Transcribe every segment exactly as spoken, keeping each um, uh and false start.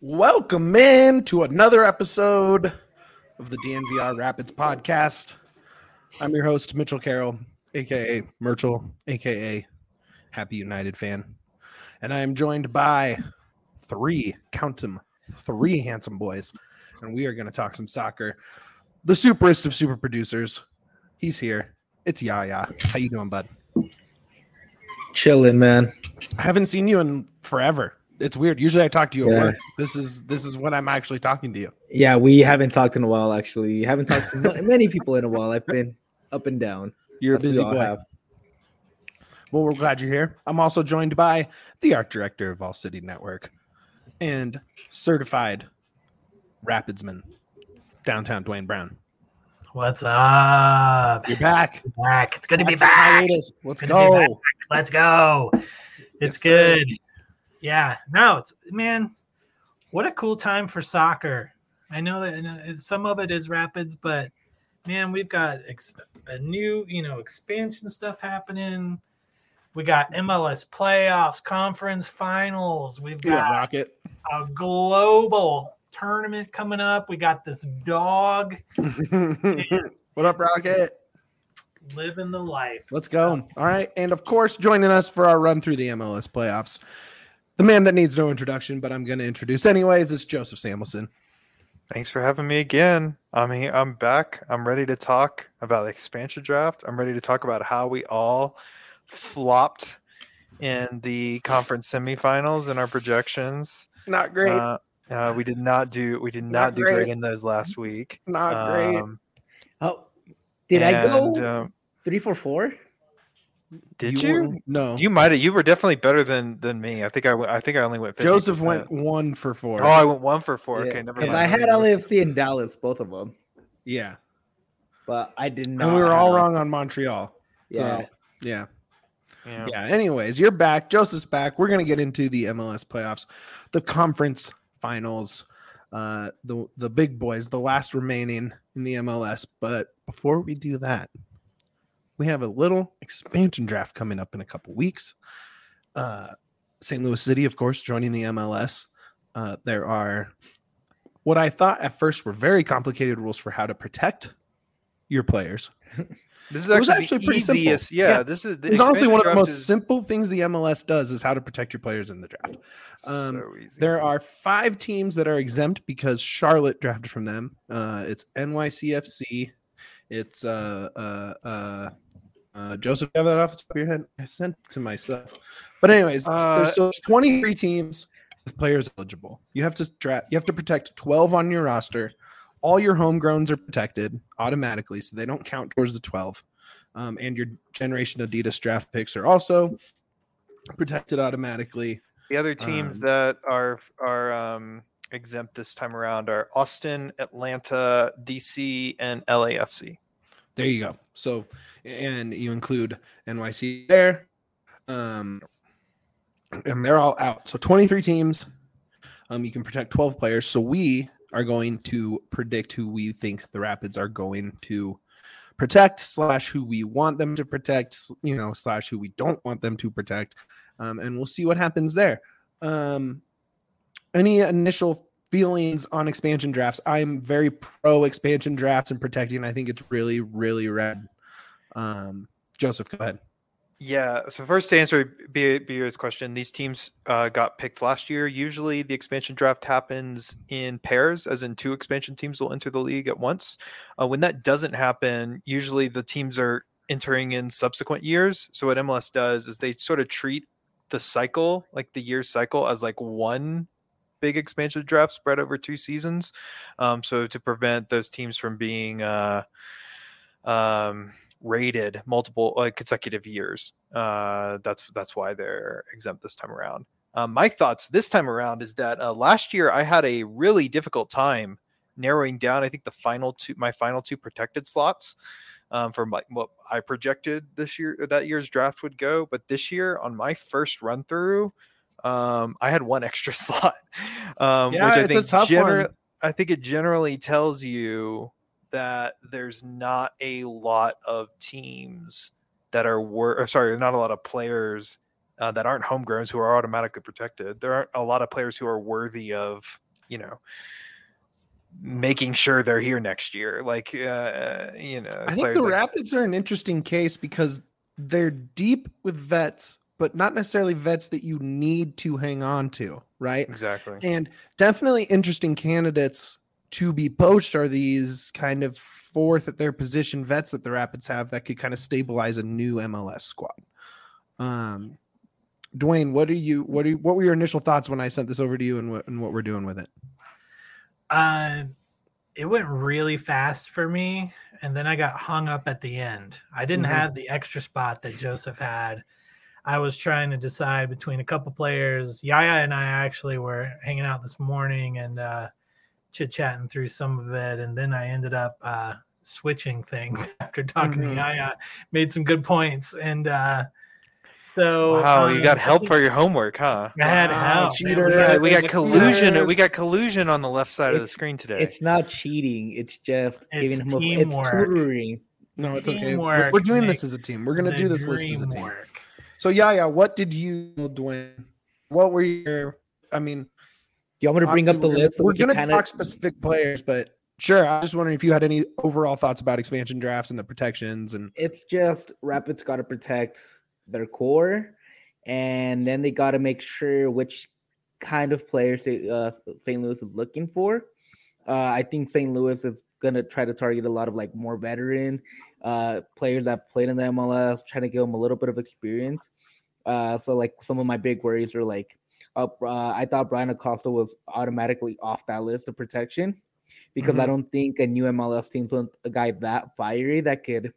Welcome in to another episode of the D N V R Rapids podcast. I'm your host, Mitchell Carroll, aka Merchel, aka Happy United fan. And I am joined by three, count them, three handsome boys. And we are going to talk some soccer. The superest of super producers. He's here. It's Yaya. How you doing, bud? Chilling, man. I haven't seen you in forever. It's weird. Usually I talk to you Yeah. at work. This is this is when I'm actually talking to you. Yeah, we haven't talked in a while, actually. Haven't talked to m- many people in a while. I've been up and down. You're As a we busy all boy. have. Well, we're glad you're here. I'm also joined by the art director of All City Network and certified Rapidsman, downtown Dwayne Brown. What's up? You're back. Back. It's good to be After back. hiatus. Let's Good to be go. back. Let's go. It's Yes, sir. good. Yeah. No, it's man. What a cool time for soccer. I know that and, uh, some of it is Rapids, but man, we've got ex- a new, you know, expansion stuff happening. We got M L S playoffs, conference finals. We've You got rocket. a global tournament coming up. We got this dog What up, Rocket? living the life. Let's go. All right. And of course, joining us for our run through the M L S playoffs, the man that needs no introduction, but I'm going to introduce anyways, is Joseph Samuelson. Thanks for having me again. I'm here. I'm back. I'm ready to talk about the expansion draft. I'm ready to talk about how we all flopped in the conference semifinals in our projections. Not great. Uh, uh, we did not do. We did not, Not do great. great in those last week. Not great. Um, Oh, did I go and, um, three for four? did you? were- No. You might have. You were definitely better than than me. I think I. went- I think I only went. fifty percent. Joseph went one for four. Oh, I went one for four. Okay, never Because mind. I had L A F C and Dallas, both of them, Yeah. but I did not. And we were all have- wrong on Montreal. Yeah. So, yeah. Yeah. Yeah. Anyways, you're back. Joseph's back. We're going to get into the M L S playoffs, the conference finals, uh, the, the big boys, the last remaining in the M L S. But before we do that, we have a little expansion draft coming up in a couple weeks. Uh, Saint Louis City, of course, joining the M L S. Uh, there are what I thought at first were very complicated rules for how to protect your players. This is It was actually, actually the pretty simple. easiest. Yeah, Yeah. this is. The It's honestly expansion one of the draft most is simple things the M L S does is how to protect your players in the draft. Um, so easy. There are five teams that are exempt because Charlotte drafted from them. Uh, it's N Y C F C. It's uh, uh, uh, uh, Joseph. You have that off the top of your head? I sent it to myself. But anyways, Uh, there's so there's twenty-three teams with players eligible. You have to draft. You have to protect twelve on your roster. All your homegrowns are protected automatically, so they don't count towards the twelve. Um, and your Generation Adidas draft picks are also protected automatically. The other teams Um, that are are um, exempt this time around are Austin, Atlanta, D C, and L A F C. There you go. So, and you include N Y C there, um, and they're all out. So, twenty-three teams. Um, you can protect twelve players. So, we are going to predict who we think the Rapids are going to protect, slash who we want them to protect, you know, slash who we don't want them to protect, um, and we'll see what happens there. Um, any initial feelings on expansion drafts? I'm very pro expansion drafts and protecting. I think it's really, really rad. Um, Joseph, go ahead. Yeah. So first, to answer B- Beer's question, these teams uh, got picked last year. Usually, the expansion draft happens in pairs, as in two expansion teams will enter the league at once. Uh, when that doesn't happen, usually the teams are entering in subsequent years. So what M L S does is they sort of treat the cycle, like the year cycle, as like one big expansion draft spread over two seasons. Um, so to prevent those teams from being uh, um, rated multiple uh, consecutive years, uh, that's that's why they're exempt this time around. Um, my thoughts this time around is that uh, last year I had a really difficult time narrowing down. I think the final two, my final two protected slots um, from like what I projected this year, that year's draft would go. But this year on my first run through, um, I had one extra slot, um, Yeah, which I it's a think tough gener- one. I think it generally tells you that there's not a lot of teams that are wor- or sorry, not a lot of players uh, that aren't homegrowns who are automatically protected. There aren't a lot of players who are worthy of you know, making sure they're here next year. Like, uh, you know, I think the like, Rapids are an interesting case because they're deep with vets, but not necessarily vets that you need to hang on to, right? Exactly. And definitely interesting candidates to be poached are these kind of fourth at their position vets that the Rapids have that could kind of stabilize a new M L S squad. Um, Dwayne, what do you what do you, what were your initial thoughts when I sent this over to you and what and what we're doing with it? Uh, it went really fast for me, and then I got hung up at the end. I didn't Mhm. have the extra spot that Joseph had. I was trying to decide between a couple players. Yaya and I actually were hanging out this morning and uh, chit-chatting through some of it, and then I ended up uh, switching things after talking Mhm. to Yaya. Made some good points, and uh, so wow, you um, got I help think for your homework, huh? I had Wow, help. man. cheater. We got, we got Cheaters. collusion. We got collusion on the left side of the It's- screen today. It's not cheating. It's just It's giving him a, it's teamwork. tutoring. No, it's okay. We're, Teamwork we're doing this makes as a team. We're gonna the do this list as a team. dream work. So Yaya, what did you, Dwayne? What were your? I mean, Do you want me to bring up the obviously, list? So We're we can gonna kind talk of specific players, but sure. I was just wondering if you had any overall thoughts about expansion drafts and the protections and. it's just Rapids got to protect their core, and then they got to make sure which kind of players they, uh, Saint Louis is looking for. Uh, I think Saint Louis is gonna try to target a lot of like more veteran uh, players that played in the M L S, trying to give them a little bit of experience. Uh, so like some of my big worries are like, uh, uh, I thought Brian Acosta was automatically off that list of protection because I Mhm. don't think a new M L S team with a guy that fiery that could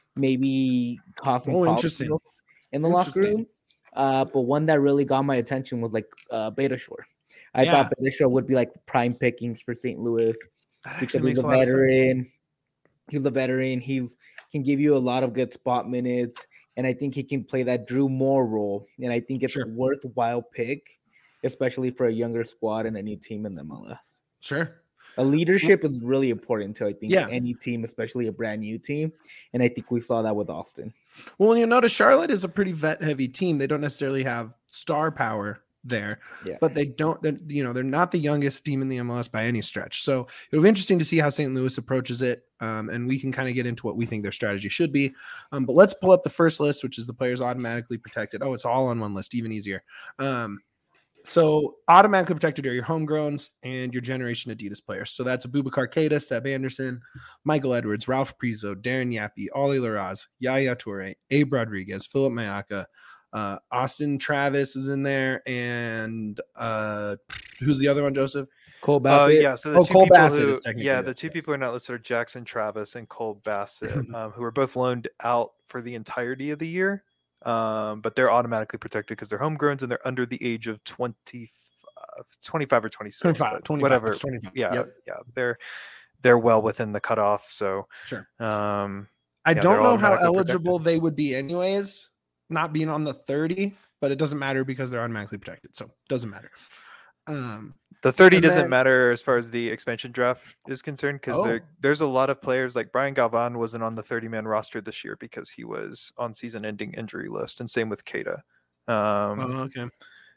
maybe cause some Oh, problems interesting. in the locker Interesting. room. Uh, but one that really got my attention was like uh, Beta Shore. I Yeah. thought Beta Shore would be like prime pickings for Saint Louis That because actually he's makes a a lot of sense. veteran. He's a veteran. He's can give you a lot of good spot minutes, and I think he can play that Drew Moore role. And I think it's Sure. a worthwhile pick, especially for a younger squad and a new team in the M L S. Sure. A leadership is really important to I think Yeah. any team, especially a brand new team. And I think we saw that with Austin. Well, you notice Charlotte is a pretty vet heavy team. They don't necessarily have star power there, Yeah. but they don't, they're, you know, they're not the youngest team in the M L S by any stretch. So it'll be interesting to see how Saint Louis approaches it. Um, and we can kind of get into what we think their strategy should be. Um, but let's pull up the first list, which is the players automatically protected. Oh, it's all on one list, even easier. Um, So automatically protected are your homegrowns and your generation Adidas players. So that's Abubakar Keita, Seb Anderson, Michael Edwards, Ralph Prizo, Darren Yappy, Ollie Laraz, Yaya Toure, Abe Rodriguez, Philip Mayaka, uh, Austin Travis is in there, and uh, who's the other one, Joseph? Cole Uh, Bassett. yeah, so the Oh, two Cole people Bassett who, is technically yeah, it, the two yes. people who are not listed are Jackson Travis and Cole Bassett, um, who are both loaned out for the entirety of the year, um, but they're automatically protected because they're homegrowns and they're under the age of twenty, twenty-five or twenty-six, twenty-five, but twenty-five, whatever. it's twenty-five. Yeah, Yep. yeah, they're they're well within the cutoff. So, Sure. um, I Yeah, don't they're know how automatically eligible they would be anyways, not being on the thirty, but it doesn't matter because they're automatically protected. So it doesn't matter. Um, the thirty And doesn't then- matter as far as the expansion draft is concerned because Oh. there there's a lot of players like Brian Galvan wasn't on the thirty man roster this year because he was on season ending injury list, and same with Keita. Um, oh, okay.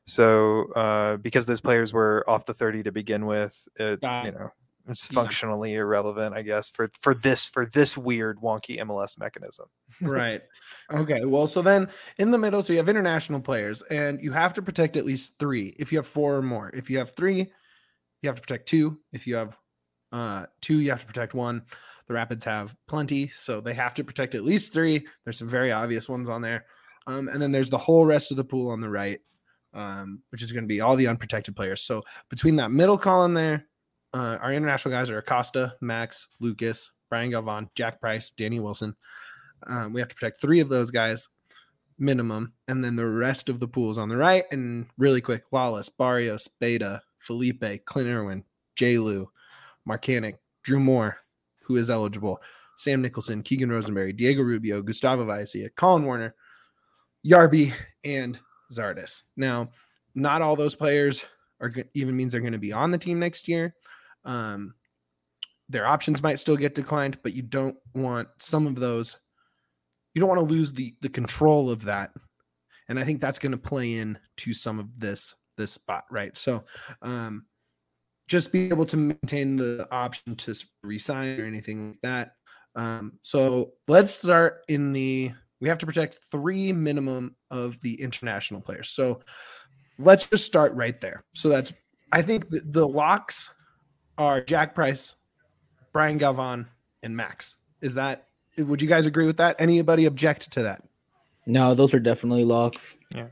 So uh, because those players were off the thirty to begin with, it, Got you it. know, it's Yeah. functionally irrelevant, I guess, for for this for this weird wonky M L S mechanism. Right. Okay. Well, so then in the middle, so you have international players, and you have to protect at least three. If you have four or more, if you have three, you have to protect two. If you have uh, two, you have to protect one. The Rapids have plenty, so they have to protect at least three. There's some very obvious ones on there, um, and then there's the whole rest of the pool on the right, um, which is going to be all the unprotected players. So between that middle column there, uh, our international guys are Acosta, Max, Lucas, Brian Galvan, Jack Price, Danny Wilson. Um, we have to protect three of those guys minimum, and then the rest of the pools on the right. And really quick: Lawless, Barrios, Beta, Felipe, Clint Irwin, J. Lou, Marcanic, Drew Moore, who is eligible, Sam Nicholson, Keegan Rosenberry, Diego Rubio, Gustavo Vaisia, Colin Warner, Yarby, and Zardes. Now, not all those players are go- even means they're going to be on the team next year. Um, their options might still get declined, but you don't want some of those. You don't want to lose the the control of that, and I think that's going to play in to some of this this spot, right? So, um, just be able to maintain the option to resign or anything like that. Um, so let's start in the. We have to protect three minimum of the international players. So let's just start right there. So that's. I think the, the locks are Jack Price, Brian Galvan, and Max. Is that? Would you guys agree with that? Anybody object to that? No, those are definitely locks. Yeah.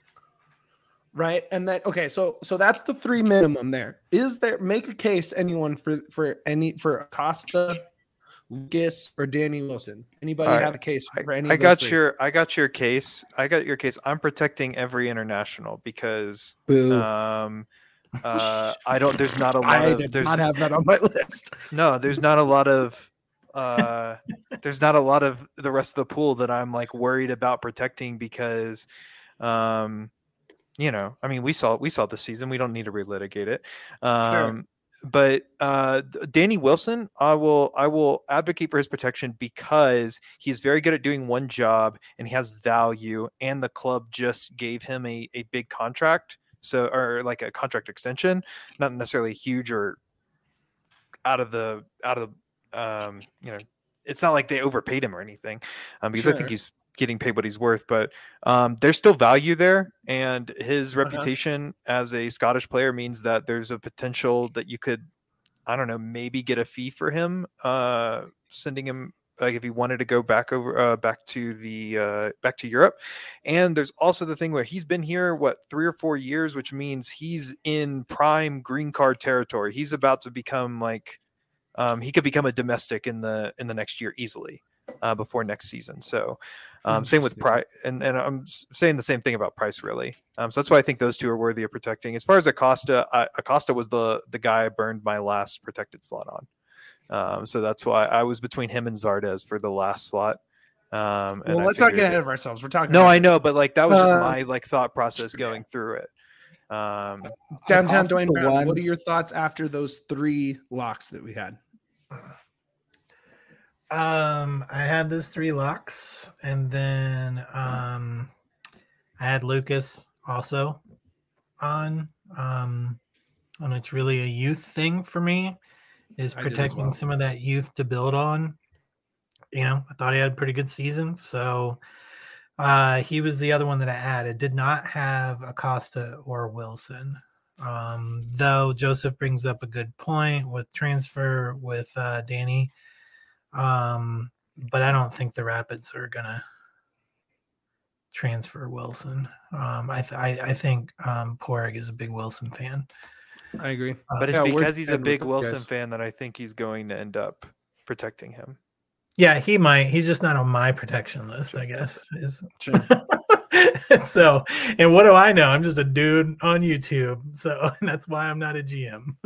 Right. And that okay, so so that's the three minimum there. Is there make a case anyone for for any for Acosta, Lucas, or Danny Wilson? Anybody All right. have a case for any I of those got three? your I got your case. I got your case. I'm protecting every international because Boo. um uh I don't there's not a lot I of did there's not have that on my list. no, there's not a lot of uh there's not a lot of the rest of the pool that I'm like worried about protecting because um you know, I mean we saw we saw this season. We don't need to relitigate it. Um Sure. But uh, Danny Wilson, I will I will advocate for his protection because he's very good at doing one job and he has value, and the club just gave him a, a big contract, so or like a contract extension, not necessarily huge or out of the out of um, you know, it's not like they overpaid him or anything, um, because I Sure. think he's getting paid what he's worth, but um, there's still value there, and his reputation as a Scottish player means that there's a potential that you could, I don't know, maybe get a fee for him, uh, sending him like if he wanted to go back over uh, back to the uh, back to Europe. And there's also the thing where he's been here what three or four years, which means he's in prime green card territory. He's about to become like um, he could become a domestic in the in the next year easily. Uh, before next season. So um, same with Price. And, and I'm saying the same thing about Price, really. Um, so that's why I think those two are worthy of protecting. As far as Acosta, I, Acosta was the the guy I burned my last protected slot on. Um, so that's why I was between him and Zardes for the last slot. Um, and Well, I let's not figured- get ahead of ourselves. We're talking No, about I know, but like that was just Uh, my like thought process going through it. Um, downtown Acosta Dwayne Brown. one. What are your thoughts after those three locks that we had? Um, I had those three locks, and then um, I had Lucas also on. Um, and it's really a youth thing for me, is I did as protecting well. some of that youth to build on. You know, I thought he had a pretty good season, so uh, he was the other one that I added. Did not have Acosta or Wilson. Um, though Joseph brings up a good point with transfer with uh, Danny. Um, but I don't think the Rapids are gonna transfer Wilson. Um, I th- I, I think um, Porig is a big Wilson fan. I agree. but it's Yeah, we're because he's a dead with big those Wilson guys. fan that I think he's going to end up protecting him. Yeah, he might. He's just not on my protection list, I guess. Is Sure. so. And what do I know? I'm just a dude on YouTube, so and that's why I'm not a G M.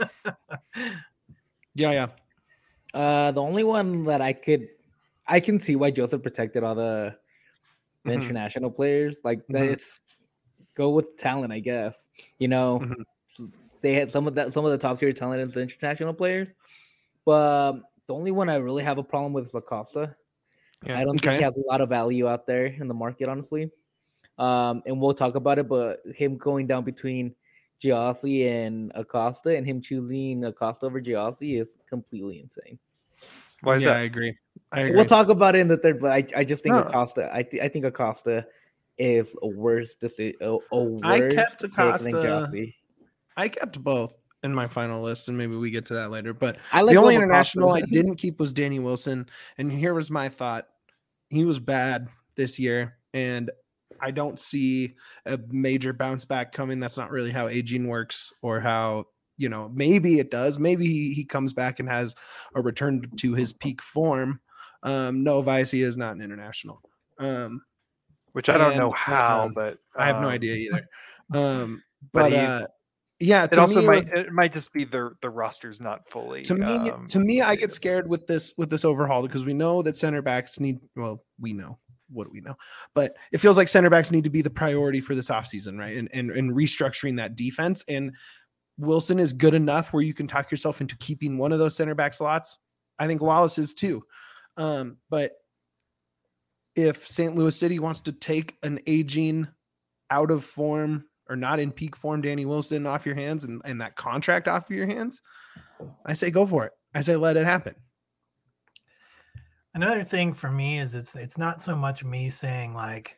Yeah, yeah. Uh, the only one that I could, I can see why Joseph protected all the, the Mhm. international players. Like that, Mhm. it's go with talent, I guess. You know, Mhm. they had some of that, some of the top tier talent is the international players, but um, the only one I really have a problem with is Acosta. Yeah. I don't Okay. think he has a lot of value out there in the market, honestly. Um, and we'll talk about it, but him going down between Giossi and Acosta, and him choosing Acosta over Giossi is completely insane. Why is yeah, I that? agree. I agree. We'll talk about it in the third, but I, I just think No. Acosta. I th- I think Acosta is a worse deci- a, a worse I kept pick than Acosta. Giossi. I kept both in my final list, and maybe we get to that later. But I like the only both international I Acosta. didn't keep was Danny Wilson. And here was my thought. He was bad this year, and I don't see a major bounce back coming. That's not really how aging works, or how, you know, maybe it does. Maybe he, he comes back and has a return to his peak form. Um, no, Vicey is not an international. Um, Which I don't know and, how, um, but I have no um, idea either. Um, but but he- uh, yeah, It to also me, it might was- it might just be the the roster's not fully. to me um, to me I get updated. scared with this with this overhaul, because we know that center backs need, well, we know what do we know, but it feels like center backs need to be the priority for this offseason, right? And, and and restructuring that defense. And Wilson is good enough where you can talk yourself into keeping one of those center back slots. I think Lawless is too. Um, but if Saint Louis City wants to take an aging, out of form, or not in peak form Danny Wilson off your hands and, and that contract off of your hands, I say go for it. I say let it happen. Another thing for me is it's it's not so much me saying like,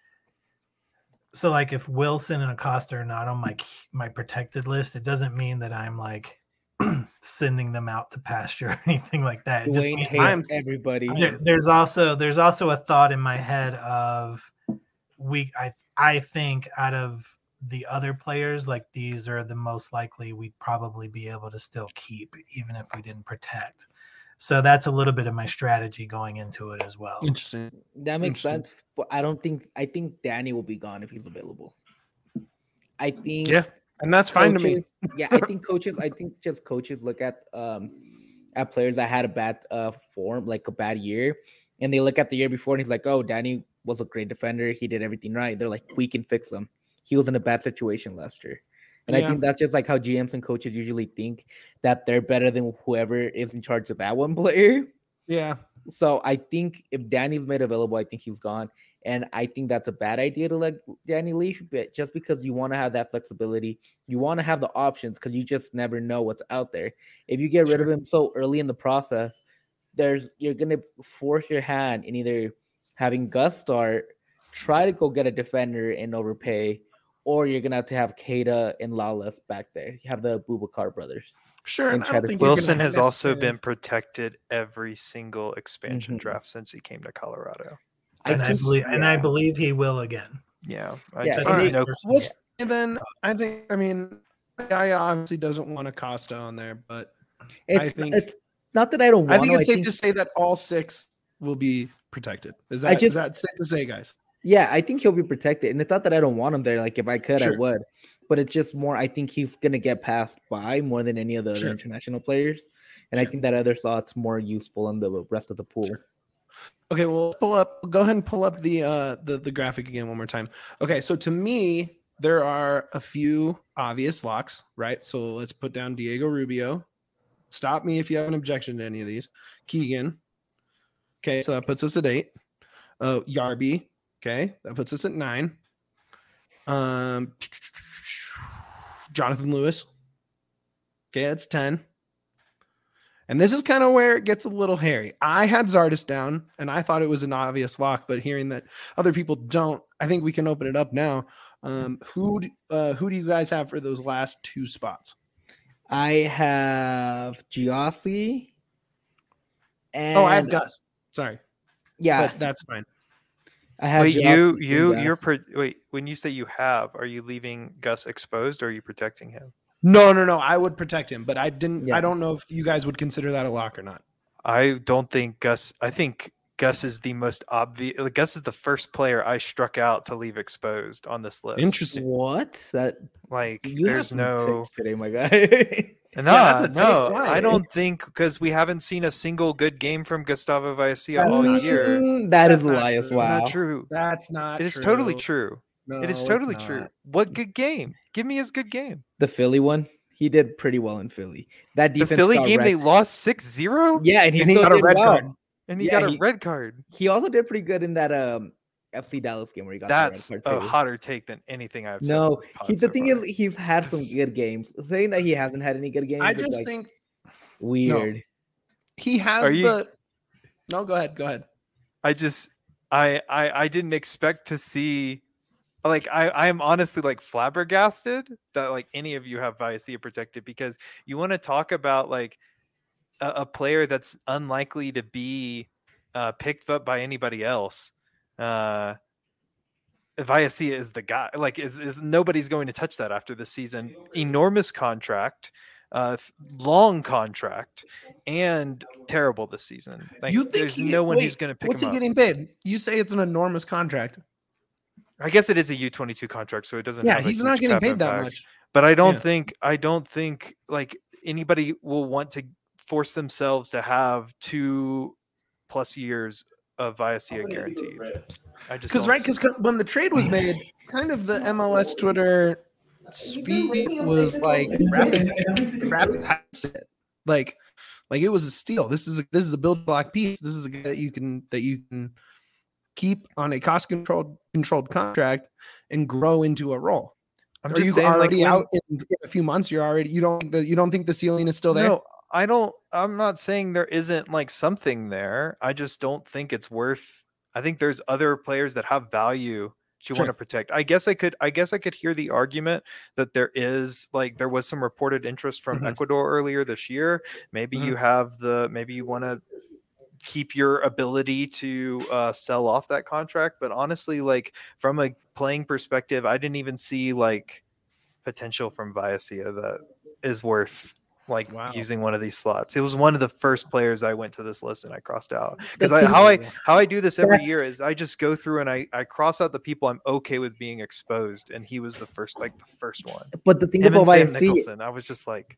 so like if Wilson and Acosta are not on my my protected list, it doesn't mean that I'm like sending them out to pasture or anything like that. It just Dwayne means hates everybody. there, there's also there's also a thought in my head of we I I think out of the other players, like these are the most likely we'd probably be able to still keep even if we didn't protect. So that's a little bit of my strategy going into it as well. Interesting. That makes sense. But I don't think I think Danny will be gone if he's available. I think Yeah, and that's fine coaches, to me. yeah, I think coaches. I think just coaches look at um at players that had a bad uh form, like a bad year, and they look at the year before and he's like, oh, Danny was a great defender. He did everything right. They're like, we can fix him. He was in a bad situation last year. And Yeah. I think that's just like how G Ms and coaches usually think that they're better than whoever is in charge of that one player. Yeah. So I think if Danny's made available, I think he's gone. And I think that's a bad idea to let Danny leave, but just because you want to have that flexibility, you want to have the options because you just never know what's out there. If you get rid Sure. of him so early in the process, there's you're gonna force your hand in either having Gus start, try to go get a defender and overpay, or you're gonna have to have Keita and Lawless back there. You have the Boubacar brothers. Sure. And And I try don't to think fix you're Wilson gonna has also necessarily- been protected every single expansion Mhm. draft since he came to Colorado. And I, just- believe and I yeah. believe he will again. Yeah, I Yeah, just and don't it- know. Well, and then I think I mean I obviously doesn't want Acosta on there, but It's think- it's not that I don't want I think to, it's safe to say that all six will be protected. Is I that just- is that safe to say, guys? Yeah, I think he'll be protected. And it's not that I don't want him there. Like, if I could, I Sure. would. But it's just more, I think he's going to get passed by more than any of the other Sure. international players. And I Sure. think that other slot's more useful in the rest of the pool. Sure. Okay, well, pull up. Go ahead and pull up the uh the the graphic again one more time. Okay, so to me, there are a few obvious locks, right? So let's put down Diego Rubio. Stop me if you have an objection to any of these. Keegan. Okay, so that puts us at eight. Uh, Yarby. Okay, that puts us at nine. Um, Jonathan Lewis. Okay, that's ten. And this is kind of where it gets a little hairy. I had Zardes down, and I thought it was an obvious lock, but hearing that other people don't, I think we can open it up now. Um, who d- uh, who do you guys have for those last two spots? I have Giossi. And Oh, I have Gus. Sorry, Yeah, but that's fine. I have Wait, Giossi you and you Gus. you're pro- wait. When you say you have, are you leaving Gus exposed or are you protecting him? No, no, no. I would protect him, but I didn't. Yeah. I don't know if you guys would consider that a lock or not. I don't think Gus. I think Gus is the most obvious. Gus is the first player I struck out to leave exposed on this list. Interesting. What? That Like, you have there's some no. takes today, my guy. No, that's a take. no, Why? I don't think because we haven't seen a single good game from Gustavo Vallecilla That's all not year. Mm, that is That's not Elias. true. Wow. Not true. That's not. It is true. totally true. No, it is it's totally not. true. What good game? Give me his good game. The Philly one, he did pretty well in Philly. That The defense Philly got game, they wrecked. lost six zero, Yeah, and he, And he still got a did red well. card. and he yeah, got a he- red card. He also did pretty good in that um F C Dallas game where he got That's the red a card too. hotter take than anything I've said. on No, this pod he, the so thing far. is, he's had some This- good games. Saying that he hasn't had any good games, I is just like think weird. he has Are you- the. No, go ahead. Go ahead. I just I I I didn't expect to see like I I am honestly like flabbergasted that like any of you have Vallecilla protected because you want to talk about like a, a player that's unlikely to be uh, picked up by anybody else. Uh, Vallecilla is the guy. Like is is nobody's going to touch that after this season. Enormous contract. Uh, th- long contract and terrible this season. Like, You think there's he- no one who's wait, going to pick What's him he up. getting paid? You say it's an enormous contract. I guess it is a U twenty-two contract, so it doesn't. Yeah, have a he's not huge getting cap paid that impact. much. But I don't Yeah. think I don't think like anybody will want to force themselves to have two plus years of Vallecilla guaranteed. I just Because don't right, see- because when the trade was made, kind of the M L S Twitter speed was like Rapids, Rapids has it. Like, like it was a steal. This is a this is a build block piece. This is a guy that you can that you can keep on a cost controlled controlled contract and grow into a role. I'm Are just you saying, like, already when- out in, in a few months? You're already you don't think the, you don't think the ceiling is still there? No, I don't. I'm not saying there isn't like something there. I just don't think it's worth. I think there's other players that have value you Sure. want to protect. I guess I could. I guess I could hear the argument that there is like there was some reported interest from Mhm. Ecuador earlier this year. Maybe Mhm. you have the. Maybe you want to keep your ability to uh, sell off that contract. But honestly, like from a playing perspective, I didn't even see like potential from Viacia that is worth like Wow. using one of these slots. It was one of the first players I went to this list and I crossed out because The I thing- how I how I do this every year That's- is I just go through and I I cross out the people I'm okay with being exposed, and he was the first like the first one. But the thing Him and about Sam Viacia, Nicholson, I was just like,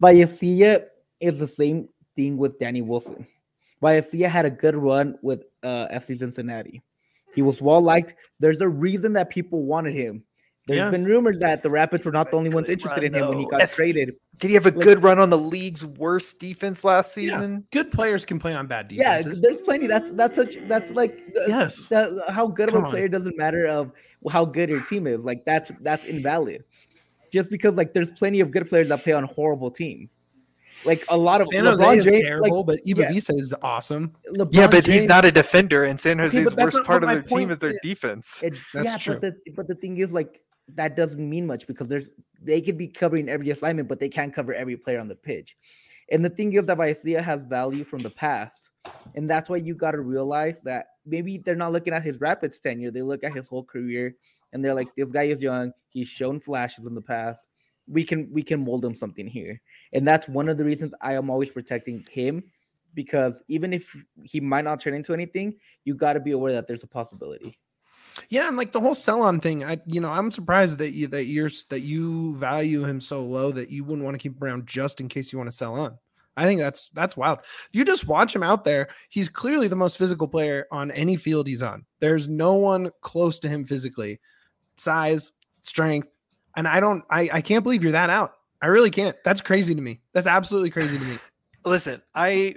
Viacia is the same thing with Danny Wilson. Viacia had a good run with uh, F C Cincinnati. He was well liked. There's a reason that people wanted him. There's Yeah. been rumors that the Rapids were not the only ones Good interested run, in him when he though. got That's- traded. did he have a Like- good run on the league's worst defense last Yeah. season? Good players can play on bad Yeah, defenses. there's plenty. That's that's such that's like uh, Yes. that, how good of Come a on. player doesn't matter of how good your team is. Like that's that's invalid. Just because like there's plenty of good players that play on horrible teams. Like a lot of San Jose LeBron is James, terrible, like, but yeah. Ibavica is awesome. LeBron Yeah, but he's James- not a defender, and San Okay, Jose's but that's worst not part what of my their team point is their is. defense. It, That's yeah, true. but the but the thing is, like that doesn't mean much because there's they could be covering every assignment, but they can't cover every player on the pitch. And the thing is that Viacia has value from the past, and that's why you got to realize that maybe they're not looking at his Rapids tenure; they look at his whole career, and they're like, "This guy is young. He's shown flashes in the past. We can we can mold him something here." And that's one of the reasons I am always protecting him, because even if he might not turn into anything, you got to be aware that there's a possibility. Yeah, and like the whole sell on thing, I you know, I'm surprised that you that you're that you value him so low that you wouldn't want to keep him around just in case you want to sell on. I think that's that's wild. You just watch him out there. He's clearly the most physical player on any field he's on. There's no one close to him physically. Size, strength, and I don't I I can't believe you're that out. I really can't. That's crazy to me. That's absolutely crazy to me. Listen, I,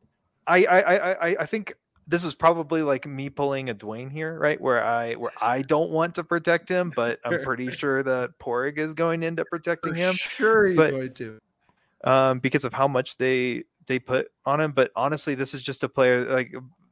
I, I, I, I- I think this was probably like me pulling a Dwayne here, right? Where I, where I don't want to protect him, but I'm pretty sure that Porig is going to end up protecting For him, sure he's but- going to. um, because of how much they they put on him. But honestly, this is just a player like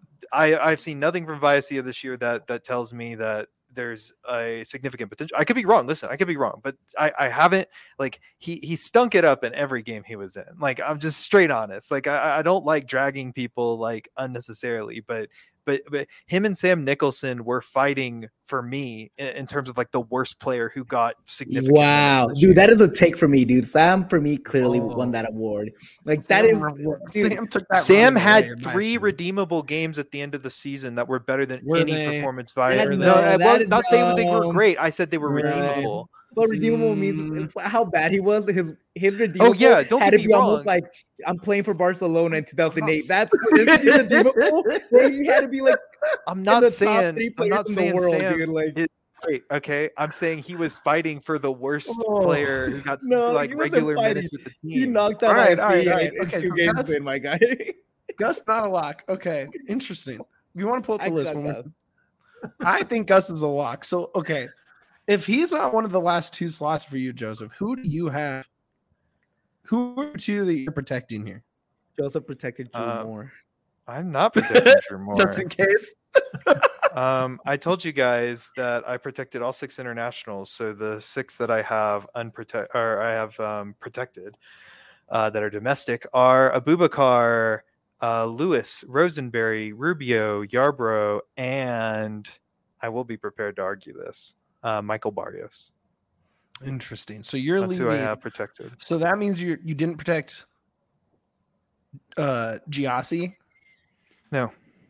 I, I've seen nothing from Viacia this year that that tells me that there's a significant potential. I could be wrong. Listen, I could be wrong, but I, I haven't like he he stunk it up in every game he was in. Like I'm just straight honest. Like I, I don't like dragging people like unnecessarily, but but but him and Sam Nicholson were fighting for me in, in terms of like the worst player who got significant. Wow, minutes this dude, year. that is a take for me, dude. Sam for me clearly Oh. won that award. Like that is dude, Sam took that Sam running had away, in my three opinion. redeemable games at the end of the season that were better than Were any they? performance via. That- No, no, I that was is not saying they were dumb. great. I said they were Right. redeemable. what redeemable Mm. means how bad he was. His his redeemable yeah, don't had get to me be almost wrong. like I'm playing for Barcelona in two thousand eight. s- That's his redeemable. Where he had to be like I'm in not the top saying three I'm players not in saying the world, Sam dude. Like is great. Okay, I'm saying he was fighting for the worst Oh, player who got no, like he wasn't regular fighting. minutes with the he team. knocked out All right, I all right, C all right. in Okay, two so games that's- in, my guy. Gus not a lock. Okay, interesting. You want to pull up the I list got when Gus. we're I think Gus is a lock. So okay, if he's not one of the last two slots for you, Joseph, who do you have? Who are two that you're protecting here? Joseph protected Drew Uh, Moore. I'm not protecting Drew Moore. Just in case. Um, I told you guys that I protected all six internationals. So the six that I have unprotect or I have um, protected uh, that are domestic are Abubakar, uh, Lewis, Rosenberry, Rubio, Yarbrough, and I will be prepared to argue this. Uh, Michael Barrios. Interesting. So you're That's leaving. who I have protected. So that means you you didn't protect uh Giassi No.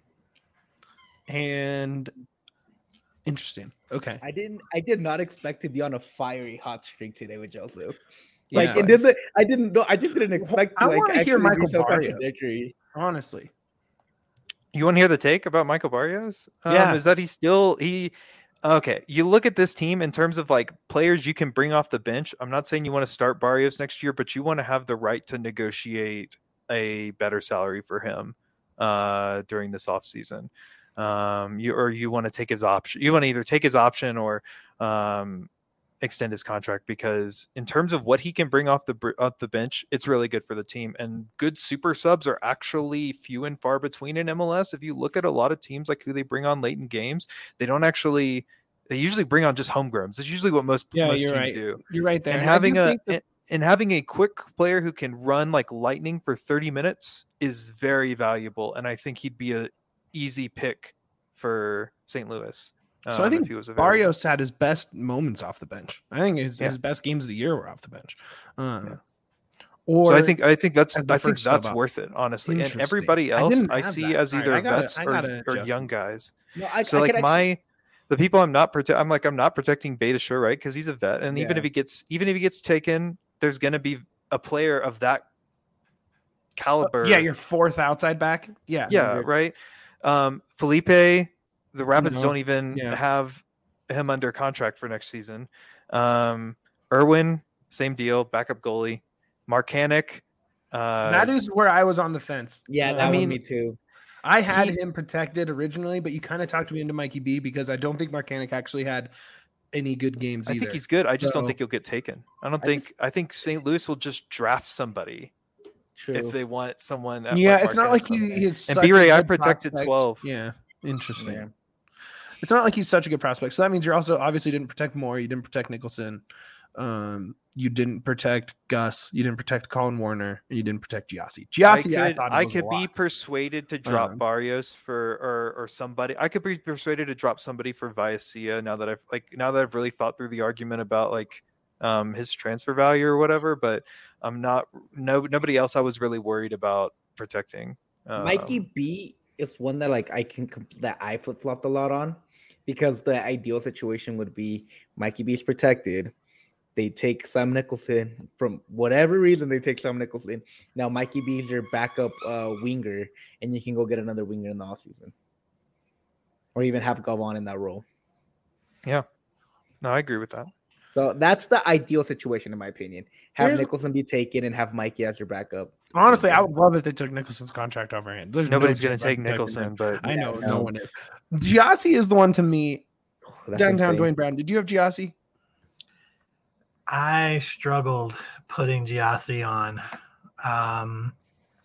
and interesting. Okay. I didn't. I did not expect to be on a fiery hot streak today with Joseph. Yeah. Like it didn't. I didn't know. I just didn't expect to I like wanna hear actually be Michael so Barrios. contradictory. Honestly. You want to hear the take about Michael Barrios? Um, Yeah. Is that he still he okay. You look at this team in terms of like players you can bring off the bench. I'm not saying you want to start Barrios next year, but you want to have the right to negotiate a better salary for him uh during this offseason. Um you or you want to take his option. You want to either take his option or um extend his contract, because in terms of what he can bring off the br- off the bench, it's really good for the team. And good super subs are actually few and far between in M L S. If you look at a lot of teams, like who they bring on late in games, they don't actually. They usually bring on just homegrowns. It's usually what most Yeah, most you're teams right. do. You're right there. And And I having do a think that- and, and having a quick player who can run like lightning for thirty minutes is very valuable. And I think he'd be a easy pick for Saint Louis. So I um, think if he was available. Barrios had his best moments off the bench. I think his, Yeah. his best games of the year were off the bench. Um, Yeah. Or So I think I think that's as the I think first sub that's up. worth it, honestly. And Interesting. everybody I else didn't I, have see that. as All right, either I gotta- vets I or, gotta or adjust young it. guys. No, I, So I like could my actually, the people I'm not protect I'm like I'm not protecting Beta Sure, right? Because he's a vet, and even Yeah. if he gets even if he gets taken, there's gonna be a player of that caliber. yeah, your fourth outside back. Yeah, yeah, Hundred. right. Um, Felipe, the Rapids No. don't even Yeah. have him under contract for next season. Um, Irwin, same deal, backup goalie. Marcanic, uh, that is where I was on the fence. yeah, Uh, that I was mean, me too. I had he- him protected originally, but you kind of talked me into Mikey B because I don't think Marcanic actually had any good games I either. think he's good. I just don't So- think he'll get taken. I don't I think. I think Saint Louis will just draft somebody True. if they want someone. At yeah, like it's not Marcanic like he, something. he is. And such a B-Ray, I good protected prospect. twelve. Yeah, interesting. Yeah. It's not like he's such a good prospect. So that means you're also obviously didn't protect Moore. You didn't protect Nicholson. Um, you didn't protect Gus. You didn't protect Colin Warner. And you didn't protect Giassi. I Giassi, I, could, thought I was a could be lock. persuaded to drop Um, Barrios for or or somebody. I could be persuaded to drop somebody for Viacia now that I've like now that I've really thought through the argument about like um his transfer value or whatever. But I'm not no nobody else I was really worried about protecting. Um, Mikey B is one that like I can comp- that I flip flopped a lot on, because the ideal situation would be Mikey B is protected. They take Sam Nicholson from whatever reason. They take Sam Nicholson. Now Mikey B is your backup uh, winger, and you can go get another winger in the offseason. Or even have Gavon in that role. No, I agree with that. So that's the ideal situation, in my opinion. Have Here's- Nicholson be taken and have Mikey as your backup. Honestly, I would love if they took Nicholson's contract over him. There's no Nobody's going chance to I'm take protecting Nicholson, him. but I know Yeah, no no. one is. Giassi is the one to me. Oh, that's Downtown insane. Dwayne Brown. Did you have Giassi? I struggled putting Giassi on. Um,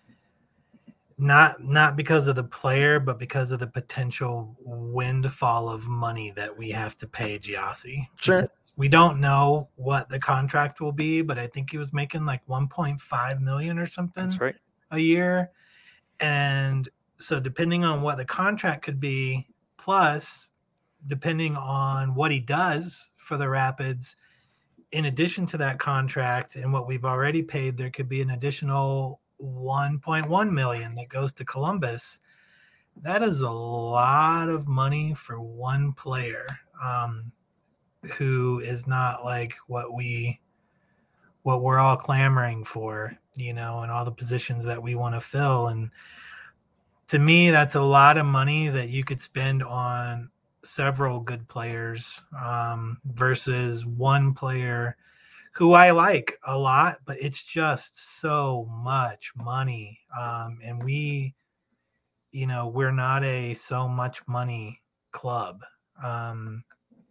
not not because of the player, but because of the potential windfall of money that we have to pay Giassi. Sure. We don't know what the contract will be, but I think he was making like one point five million or something that's right. a year. And so depending on what the contract could be, plus depending on what he does for the Rapids, in addition to that contract and what we've already paid, there could be an additional one point one million that goes to Columbus. That is a lot of money for one player, um, who is not like what we what we're all clamoring for, you know, and all the positions that we want to fill. And to me, that's a lot of money that you could spend on several good players, um, versus one player who I like a lot, but it's just so much money. Um, and we, you know, we're not a so much money club. Um,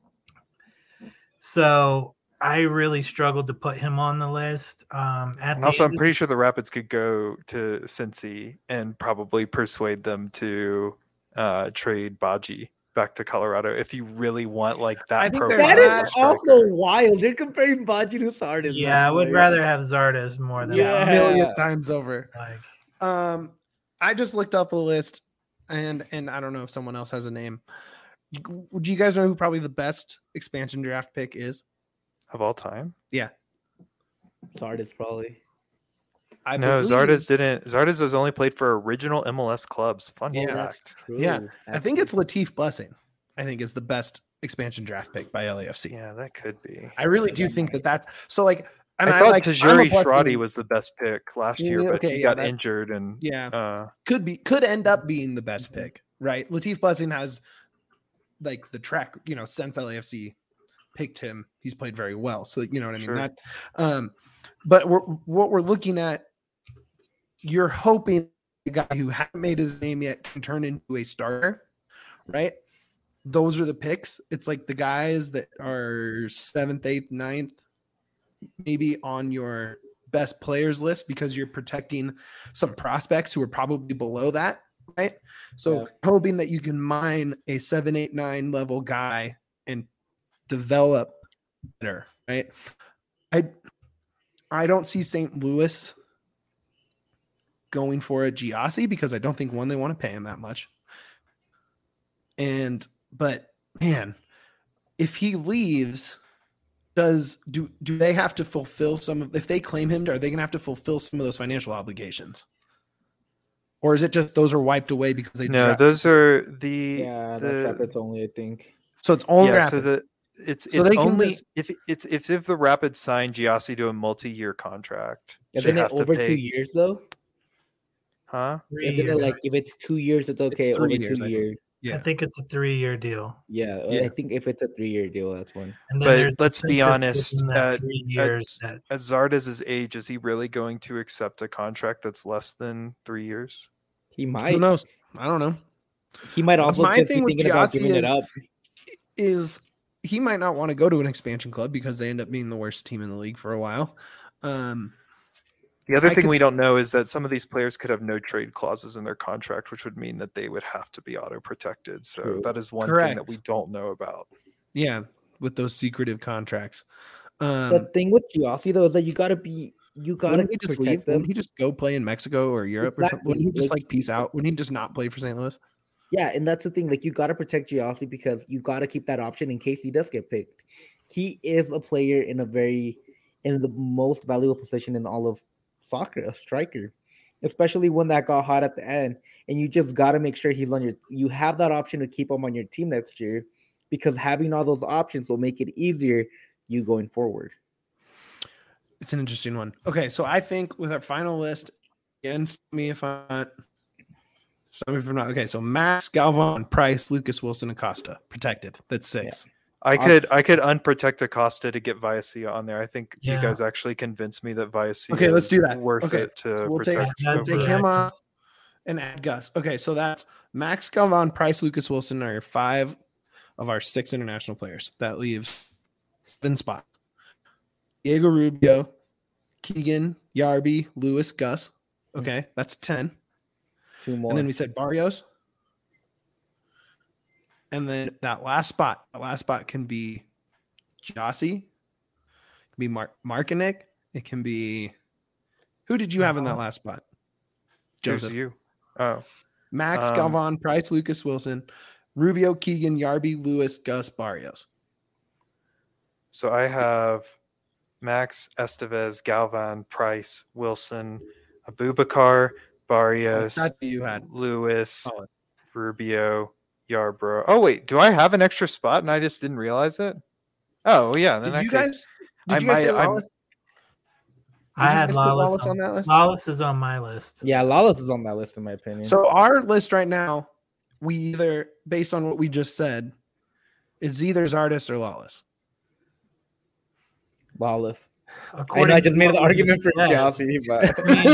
so I really struggled to put him on the list. Um, at And the also, end I'm of- pretty sure the Rapids could go to Cincy and probably persuade them to uh, trade Baji back to Colorado if you really want like that. I think they're profile That of a is striker. also wild. You're comparing Baji to Sardis. yeah, I would rather have Zardes more than Yeah. A million times over. like Um, I just looked up a list, and and I don't know if someone else has a name. Do you guys know who probably the best expansion draft pick is? of all time. Sardis probably. I No, believe- Zardes didn't. Zardes has only played for original M L S clubs. Fun Yeah. fact. Yeah, True. I think it's Latif Blessing. I think is the best expansion draft pick by L A F C. Yeah, that could be. I really do think that that's so. Like, and I I, thought like I'm a Tajuri Blessing- Shradi was the best pick last year, Yeah, but okay, he yeah, got that- injured and Yeah, uh, could be could end up being the best Mhm. pick, right? Latif Blessing has like the track, you know, since L A F C picked him, he's played very well. So you know what I mean. Sure. That, um, but we're, what we're looking at, you're hoping the guy who hasn't made his name yet can turn into a starter, right? those are the picks. It's like the guys that are seventh, eighth, ninth, maybe on your best players list because you're protecting some prospects who are probably below that, right? So Yeah. hoping that you can mine a seven, eight, nine level guy and develop better, right? I I don't see Saint Louis going for a Giassi because I don't think one they want to pay him that much. And but man, if he leaves, does do do they have to fulfill some of if they claim him, are they gonna have to fulfill some of those financial obligations? Or is it just those are wiped away because they No, draft- those are the Yeah, the, that's Rapids only, I think. so it's only yeah, so Rapids. the it's So it's they can only just- if it's if if the Rapids sign Giassi to a multi-year contract. they Isn't it have to over pay- two years though? Huh? Three Isn't it years. like if it's two years, it's okay. three Over years, two I think. years. yeah. I think it's a three-year deal. Yeah, Yeah. I think if it's a three-year deal, that's one. And But there's let's be incentives honest, within that at- three at- years that At Zardes' age, is he really going to accept a contract that's less than three years? He Who might. knows? I don't know. He might also My just be thing with thinking about Giassi giving it is- up. Is he might not want to go to an expansion club because they end up being the worst team in the league for a while. Um The other I thing could- we don't know is that some of these players could have no trade clauses in their contract, which would mean that they would have to be auto protected. So True. that is one thing that Correct. we don't know about. yeah, with those secretive contracts. Um The thing with Giassi though is that you gotta be, you gotta wouldn't he just leave? protect them. Wouldn't he just go play in Mexico or Europe or something? Wouldn't he Exactly, just like- like peace out? Wouldn't he just not play for Saint Louis? Yeah, and that's the thing. Like, you got to protect Giassi because you got to keep that option in case he does get picked. He is a player in a very, in the most valuable position in all of soccer, a striker, especially one that got hot at the end. And you just got to make sure he's on your. You have that option to keep him on your team next year, because having all those options will make it easier you going forward. It's an interesting one. Okay, so I think with our final list, against me if I'm not. Some if I'm not okay. So Max, Galvan, Price, Lucas, Wilson, Acosta protected. That's six. I I'll- could I could unprotect Acosta to get Viacia on there. I think Yeah. you guys actually convinced me that Viacia Okay, let's is do that. worth Okay, it to so we'll take- protect. I'd over- take do him that off. 'cause And add Gus. Okay, so that's Max, Galvan, Price, Lucas, Wilson are your five of our six international players. That leaves seven spots. Diego Rubio, Keegan, Yarby, Lewis, Gus. Okay, that's ten. Two more. And then we said Barrios. And then that last spot, that last spot can be Giassi, it can be Mark Markinek, it can be who did you have in that last spot? Choose Joseph. you. Oh, Max, Um, Galvan, Price, Lucas, Wilson, Rubio, Keegan, Yarby, Lewis, Gus, Barrios. so I have Max, Estevez, Galvan, Price, Wilson, Abubakar, Barrios, That's who you had. Lewis, Oh, Rubio, Yarbrough. Oh wait, do I have an extra spot and I just didn't realize it? Oh yeah, then Did I you could- guys did I you guys say might- I'm- Lawless? Did I you had guys put Lawless, Lawless on, on that list? Lawless is on my list. yeah, Lawless is on that list in my opinion. So our list right now, we either based on what we just said, is either Zardes or Lawless. Lawless. I know According I just to made the what we argument for said, Giassi, but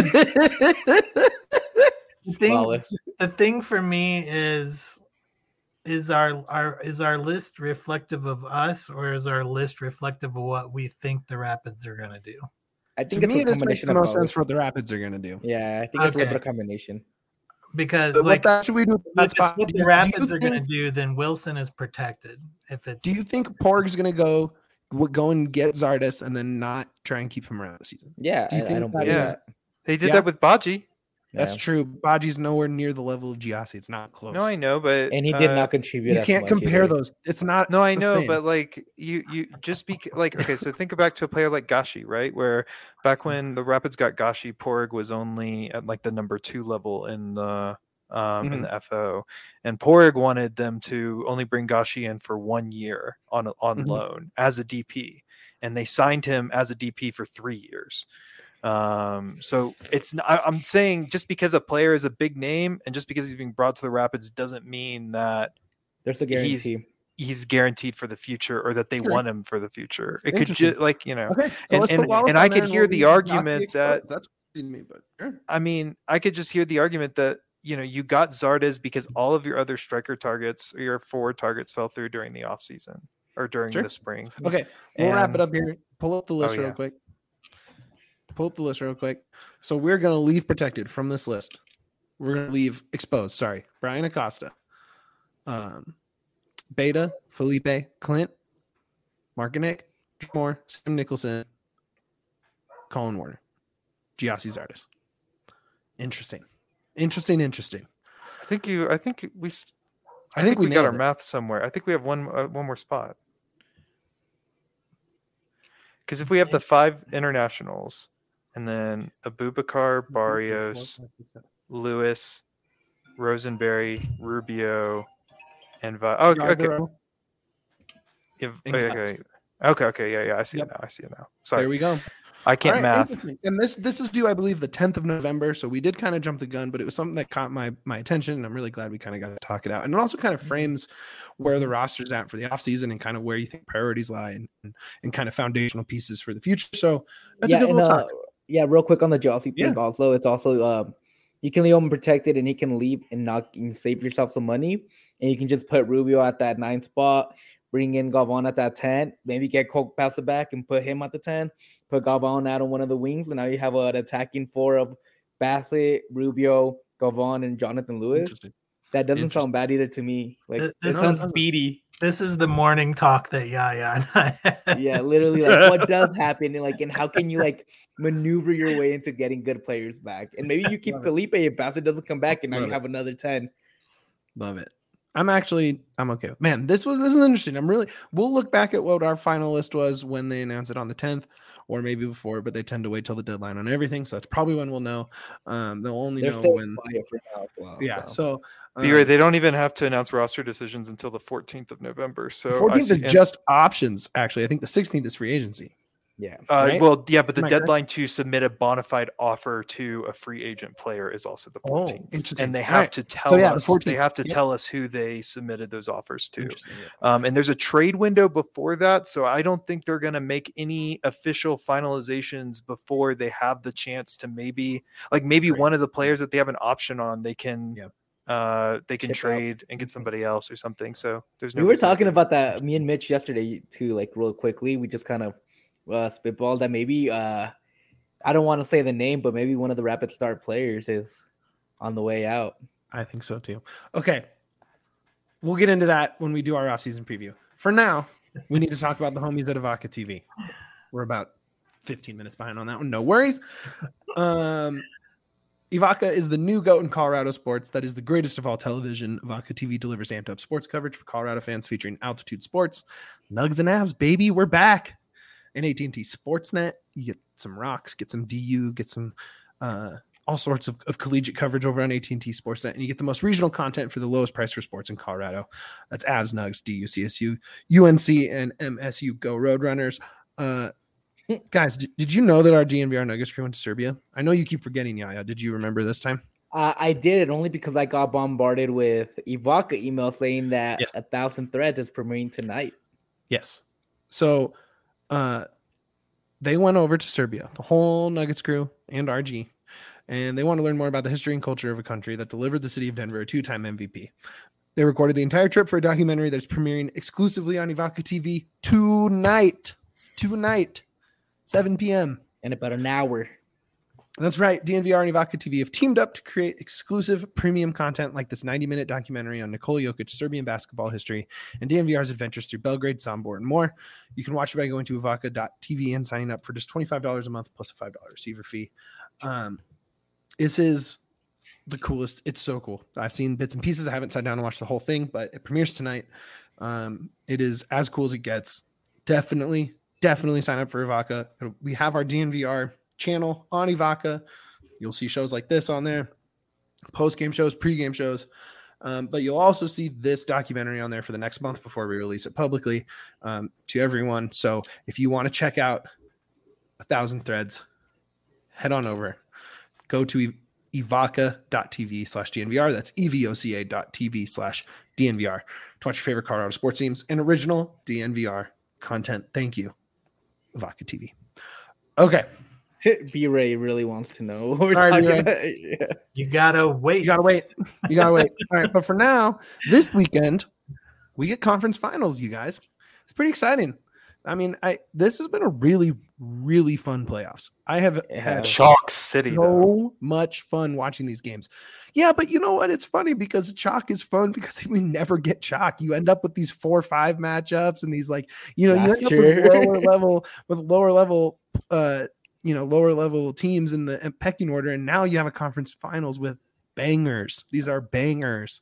The thing, Lawless. the thing for me is is our our is our list reflective of us, or is our list reflective of what we think the Rapids are going to do? I To think it's me, a this makes combination the of most both. sense for what the Rapids are going to do. Yeah, I think it's a little Okay. bit of combination. Because But like what that should we do? with if that it's spot? what Do the you- do Rapids you are going to think- do, then Wilson is protected. If it's Do you think Porg's going to go w- go and get Zardes and then not try and keep him around the season? Yeah, Do you I, I think don't that believe is- that. they did Yeah. that with Baji. That's Yeah. true. Baji's nowhere near the level of Giassi. It's not close. No, I know, but And he did uh, not contribute. you as can't much compare either. those. It's not. No, I the know, same. but like you, you just be like okay. So think back to a player like Gashi, right? Where back when the Rapids got Gashi, Porg was only at like the number two level in the um, in Mhm. the F O, and Porg wanted them to only bring Gashi in for one year on on Mhm. loan as a D P, and they signed him as a D P for three years. Um, so it's n- I, I'm saying just because a player is a big name and just because he's being brought to the Rapids doesn't mean that There's a he's- guarantee. he's guaranteed for the future or that they Sure. want him for the future. It could Interesting. just like, you know, Okay. So and- let's put and- Wallace and on I there could and hear we'll the leave Giassi argument exposed. that- That's crazy to me, but sure. I mean, I could just hear the argument that you know, you got Zardes because all of your other striker targets or your forward targets fell through during the offseason or during Sure. the spring. Okay, we'll And, wrap it up here. Pull up the list Oh, real yeah. quick. Pull up the list real quick. So we're going to leave protected from this list. We're going to leave exposed. Sorry. Brian Acosta, um, Beta, Felipe, Clint, Markinek, Moore, Sam Nicholson, Colin Warner, Giassi Zardes. Interesting. Interesting, interesting. I think you, I think we, s- I, I think, think we, we got nailed our it. math somewhere. I think we have one, uh, one more spot. Because if we have the five internationals and then Abubakar, Barrios, Lewis, Rosenberry, Rubio, and Vi- oh, okay, okay. Yarborough. If, And okay, Glass. okay, okay, okay, yeah, yeah. I see Yep. it now. I see it now. There Sorry, we go. I can't All right, math. interesting. And this this is due, I believe, the tenth of November. So we did kind of jump the gun, but it was something that caught my my attention. And I'm really glad we kind of got to talk it out. And it also kind of frames where the roster's at for the offseason and kind of where you think priorities lie and, and, and kind of foundational pieces for the future. So that's yeah, a good and, little uh, talk. yeah, real quick on the Jossie Yeah. thing. Also, it's also um, you can leave him protected, and he can leave and not and save yourself some money. And you can just put Rubio at that nine spot, bring in Galvan at that ten, maybe get Coke pass it back and put him at the ten. Put Galvan out on one of the wings, and now you have an attacking four of Bassett, Rubio, Galvan, and Jonathan Lewis. Interesting. That doesn't Interesting. sound bad either to me. Like Th- it this sounds is- speedy. This is the morning talk that Yaya and I had. Yeah, literally, like what does happen, and like, and how can you like maneuver your way into getting good players back? And maybe you keep Love it. Felipe if Bassett doesn't come back, and now Love you it. have another ten. Love it. I'm actually I'm okay. with- Man, this was this is interesting. I'm really we'll look back at what our final list was when they announced it on the tenth or maybe before, but they tend to wait till the deadline on everything. So that's probably when we'll know. Um, they'll only They're know staying when. quiet for now as well. Yeah. so. So Be right, um, they don't even have to announce roster decisions until the fourteenth of November. So the I fourteenth see- is and- just options. Actually, I think the sixteenth is free agency. yeah, Uh, right? Well, yeah, but the Am I correct? deadline to submit a bona fide offer to a free agent player is also the Oh, fourteenth, interesting. and they All have right. to tell So, yeah, the us. They fourteenth. have to Yep. tell us who they submitted those offers to. Interesting. Um, and there's a trade window before that, so I don't think they're going to make any official finalizations before they have the chance to maybe, like maybe Trade. one of the players that they have an option on, they can, Yep. uh, they can Chip out. trade and get somebody else or something. So there's no. we were reason to talking do- about that. Me and Mitch yesterday too. Like real quickly, we just kind of uh, spitballed that maybe. Uh, I don't want to say the name, but maybe one of the Rapid Start players is on the way out. I think so too. Okay. We'll get into that when we do our off-season preview. For now, we need to talk about the homies at Avaca T V. We're about fifteen minutes behind on that one. No worries. Um, Avaca is the new goat in Colorado sports. That is the greatest of all television. Avaca T V delivers amped up sports coverage for Colorado fans featuring altitude sports. Nugs and Avs, baby, we're back. And A T and T Sportsnet, you get some rocks, get some D U, get some uh, all sorts of, of collegiate coverage over on A T and T Sportsnet, and you get the most regional content for the lowest price for sports in Colorado. That's Avs, Nugs, D U, C S U, U N C, and M S U Go Roadrunners. Uh, guys, did, did you know that our D N V R Nuggets crew went to Serbia? I know you keep forgetting, Yaya. Did you remember this time? Uh, I did it only because I got bombarded with Ivaca email saying that Yes. a thousand threads is premiering tonight. Yes. So uh, they went over to Serbia, the whole Nuggets crew and R G, and they want to learn more about the history and culture of a country that delivered the city of Denver a two-time M V P. They recorded the entire trip for a documentary that's premiering exclusively on Ivaca T V tonight. Tonight, seven p.m. In about an hour. That's right. D N V R and Ivaca T V have teamed up to create exclusive premium content like this ninety-minute documentary on Nikola Jokic, Serbian basketball history, and D N V R's adventures through Belgrade, Sombor, and more. You can watch it by going to ivaca dot t v and signing up for just twenty-five dollars a month plus a five dollars receiver fee. Um, this is the coolest. It's so cool. I've seen bits and pieces. I haven't sat down and watched the whole thing, but it premieres tonight. Um, it is as cool as it gets. Definitely, definitely sign up for Ivaca. We have our D N V R channel on Ivaca. You'll see shows like this on there, post-game shows, pre-game shows. Um, but you'll also see this documentary on there for the next month before we release it publicly um, to everyone. So if you want to check out A Thousand Threads, head on over. Go to ivaca dot t v slash D N V R. That's evoca dot t v slash D N V R to watch your favorite Colorado sports teams and original D N V R content. Thank you, Ivaca T V. Okay. B-Ray really wants to know what we're Sorry, talking B-Ray. about. Yeah. You gotta wait. You gotta wait. You gotta wait. All right, but for now, this weekend we get conference finals. You guys, it's pretty exciting. I mean, I this has been a really, really fun playoffs. I have Yeah. had Chalk City. though. so much fun watching these games. Yeah, but you know what? It's funny because chalk is fun because we never get chalk. You end up with these four five matchups and these like, you know, you That's end up true. with lower level with lower level uh you know, lower level teams in the pecking order, and now you have a conference finals with bangers. These are bangers.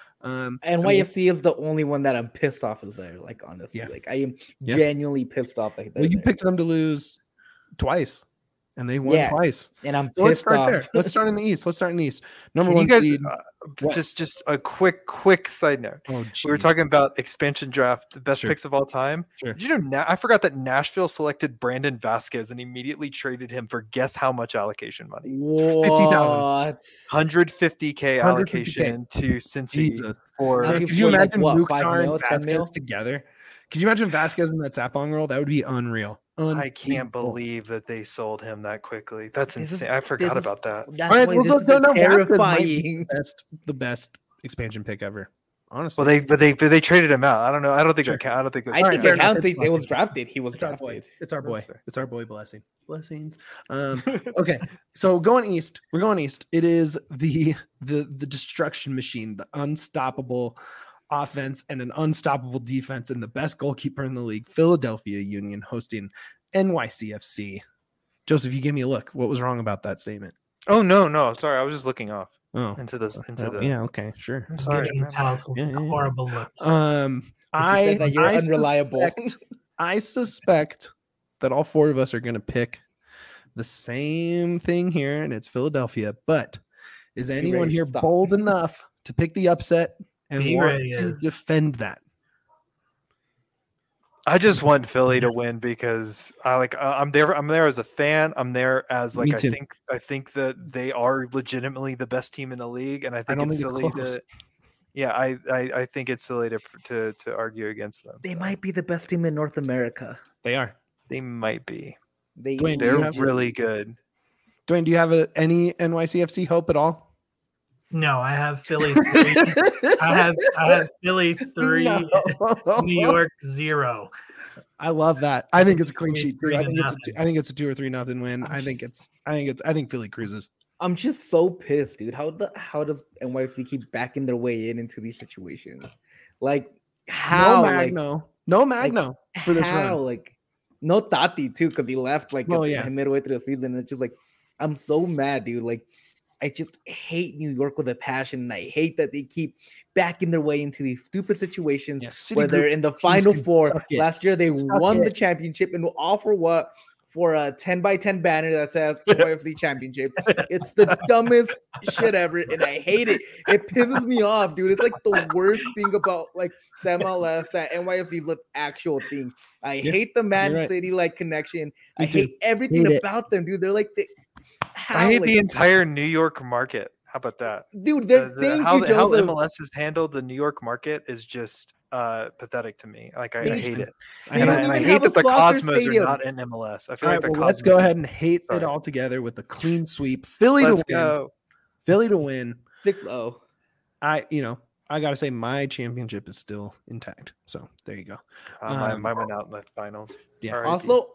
Um N Y F C is the only one that I'm pissed off is there. Like honestly, Yeah. like I am Yeah. genuinely pissed off. Like well, you there. picked them to lose twice, and they won Yeah. twice. and I'm So let's pissed start off. there. Let's start in the East. Let's start in the East. Number Can one you guys seed. uh, What? just just a quick quick side note? Oh, We were geez. talking about expansion draft, the best Sure. picks of all time. Sure. Did you know? Na- I forgot that Nashville selected Brandon Vasquez and immediately traded him for guess how much allocation money? fifty thousand. What? one hundred fifty K one hundred fifty K. allocation to Cincy Jesus. for. Now Man, he's could you what, like, imagine what, five Mukhtar mil, and ten mil? Vasquez together? Could you imagine Vasquez in that Sapong role? That would be unreal. I can't Unbelievable. believe that they sold him that quickly. That's This is- insane. I forgot this is- about that. That's All right, why well, this so- is no, no, Vasquez might be terrifying. Best, the best expansion pick ever. Honestly, Well, they but they but they traded him out. I don't know. I don't think Sure. that count. I don't think that's I All right, think fair it enough. counts. It's It, it was Blessing. drafted. He was it's our boy. drafted. It's our boy. That's fair. It's our boy. Blessing. Blessings. Um, okay, so going east. We're going east. It is the the the destruction machine, the unstoppable offense and an unstoppable defense, and the best goalkeeper in the league, Philadelphia Union, hosting N Y C F C. Joseph, you gave me a look. What was wrong about that statement? Oh no, no, sorry. I was just looking off Oh, into the into uh, the. yeah. Okay, sure. I'm sorry. Giving his never mind. house Yeah, yeah, yeah. horrible looks. Um, But you I said that you're I unreliable. Suspect, I suspect that all four of us are going to pick the same thing here, and it's Philadelphia. But is anyone ready to here stop. bold enough to pick the upset and Be want ready to is. defend that? I just want Philly to win because I like uh, I'm there. I'm there as a fan. I'm there as like Me I too. think I think that they are legitimately the best team in the league, and I think don't it's think it's silly close. to. Yeah, I, I I think it's silly to to to argue against them. They so. might be the best team in North America. They are. They might be. They Dwayne, do you They're have- really good. Dwayne, do you have a, any N Y C F C hope at all? No, I have Philly three. I have I have Philly three, No. New York zero. I love that. I think it's a clean Three- sheet. Too. three I to think it's a, nothing. I think it's a two or three nothing win. I think it's I think it's I think Philly cruises. I'm just so pissed, dude. How the how does N Y F C keep backing their way in into these situations? Like how? no like, Magno. no Magno for this how? run. Like no Tati too, because he left like Oh, at- yeah. midway through the season. It's just like I'm so mad, dude. Like I just hate New York with a passion, and I hate that they keep backing their way into these stupid situations Yeah, Citigroup where they're in the teams final can four. suck it. Last year they Suck won the it. championship, and all for what? For a ten by ten banner that says N Y F C championship. It's the dumbest shit ever, and I hate it. It pisses me off, dude. It's like the worst thing about like the M L S that N Y F C is an actual thing. I Yeah, hate the Man you're right. City like connection. I Me too. hate everything Hate it. about them, dude. They're like the how, I hate like, the entire New York market. How about that? dude. The- They're, the- thank how, you, the- how Joseph. M L S has handled the New York market is just uh, pathetic to me. Like I, I They- hate it, I and know. I, don't and I even hate have a that the Slaughter Cosmos Stadium. are not in M L S. I feel All like right, the well, let's Cosmos go are- ahead and hate it Sorry. all together with a clean sweep. Philly Let's to win. go. Philly to win. six oh. I, you know, I gotta say my championship is still intact. So there you go. Uh, my, Um, mine went out in the finals. Yeah. R I P. Also,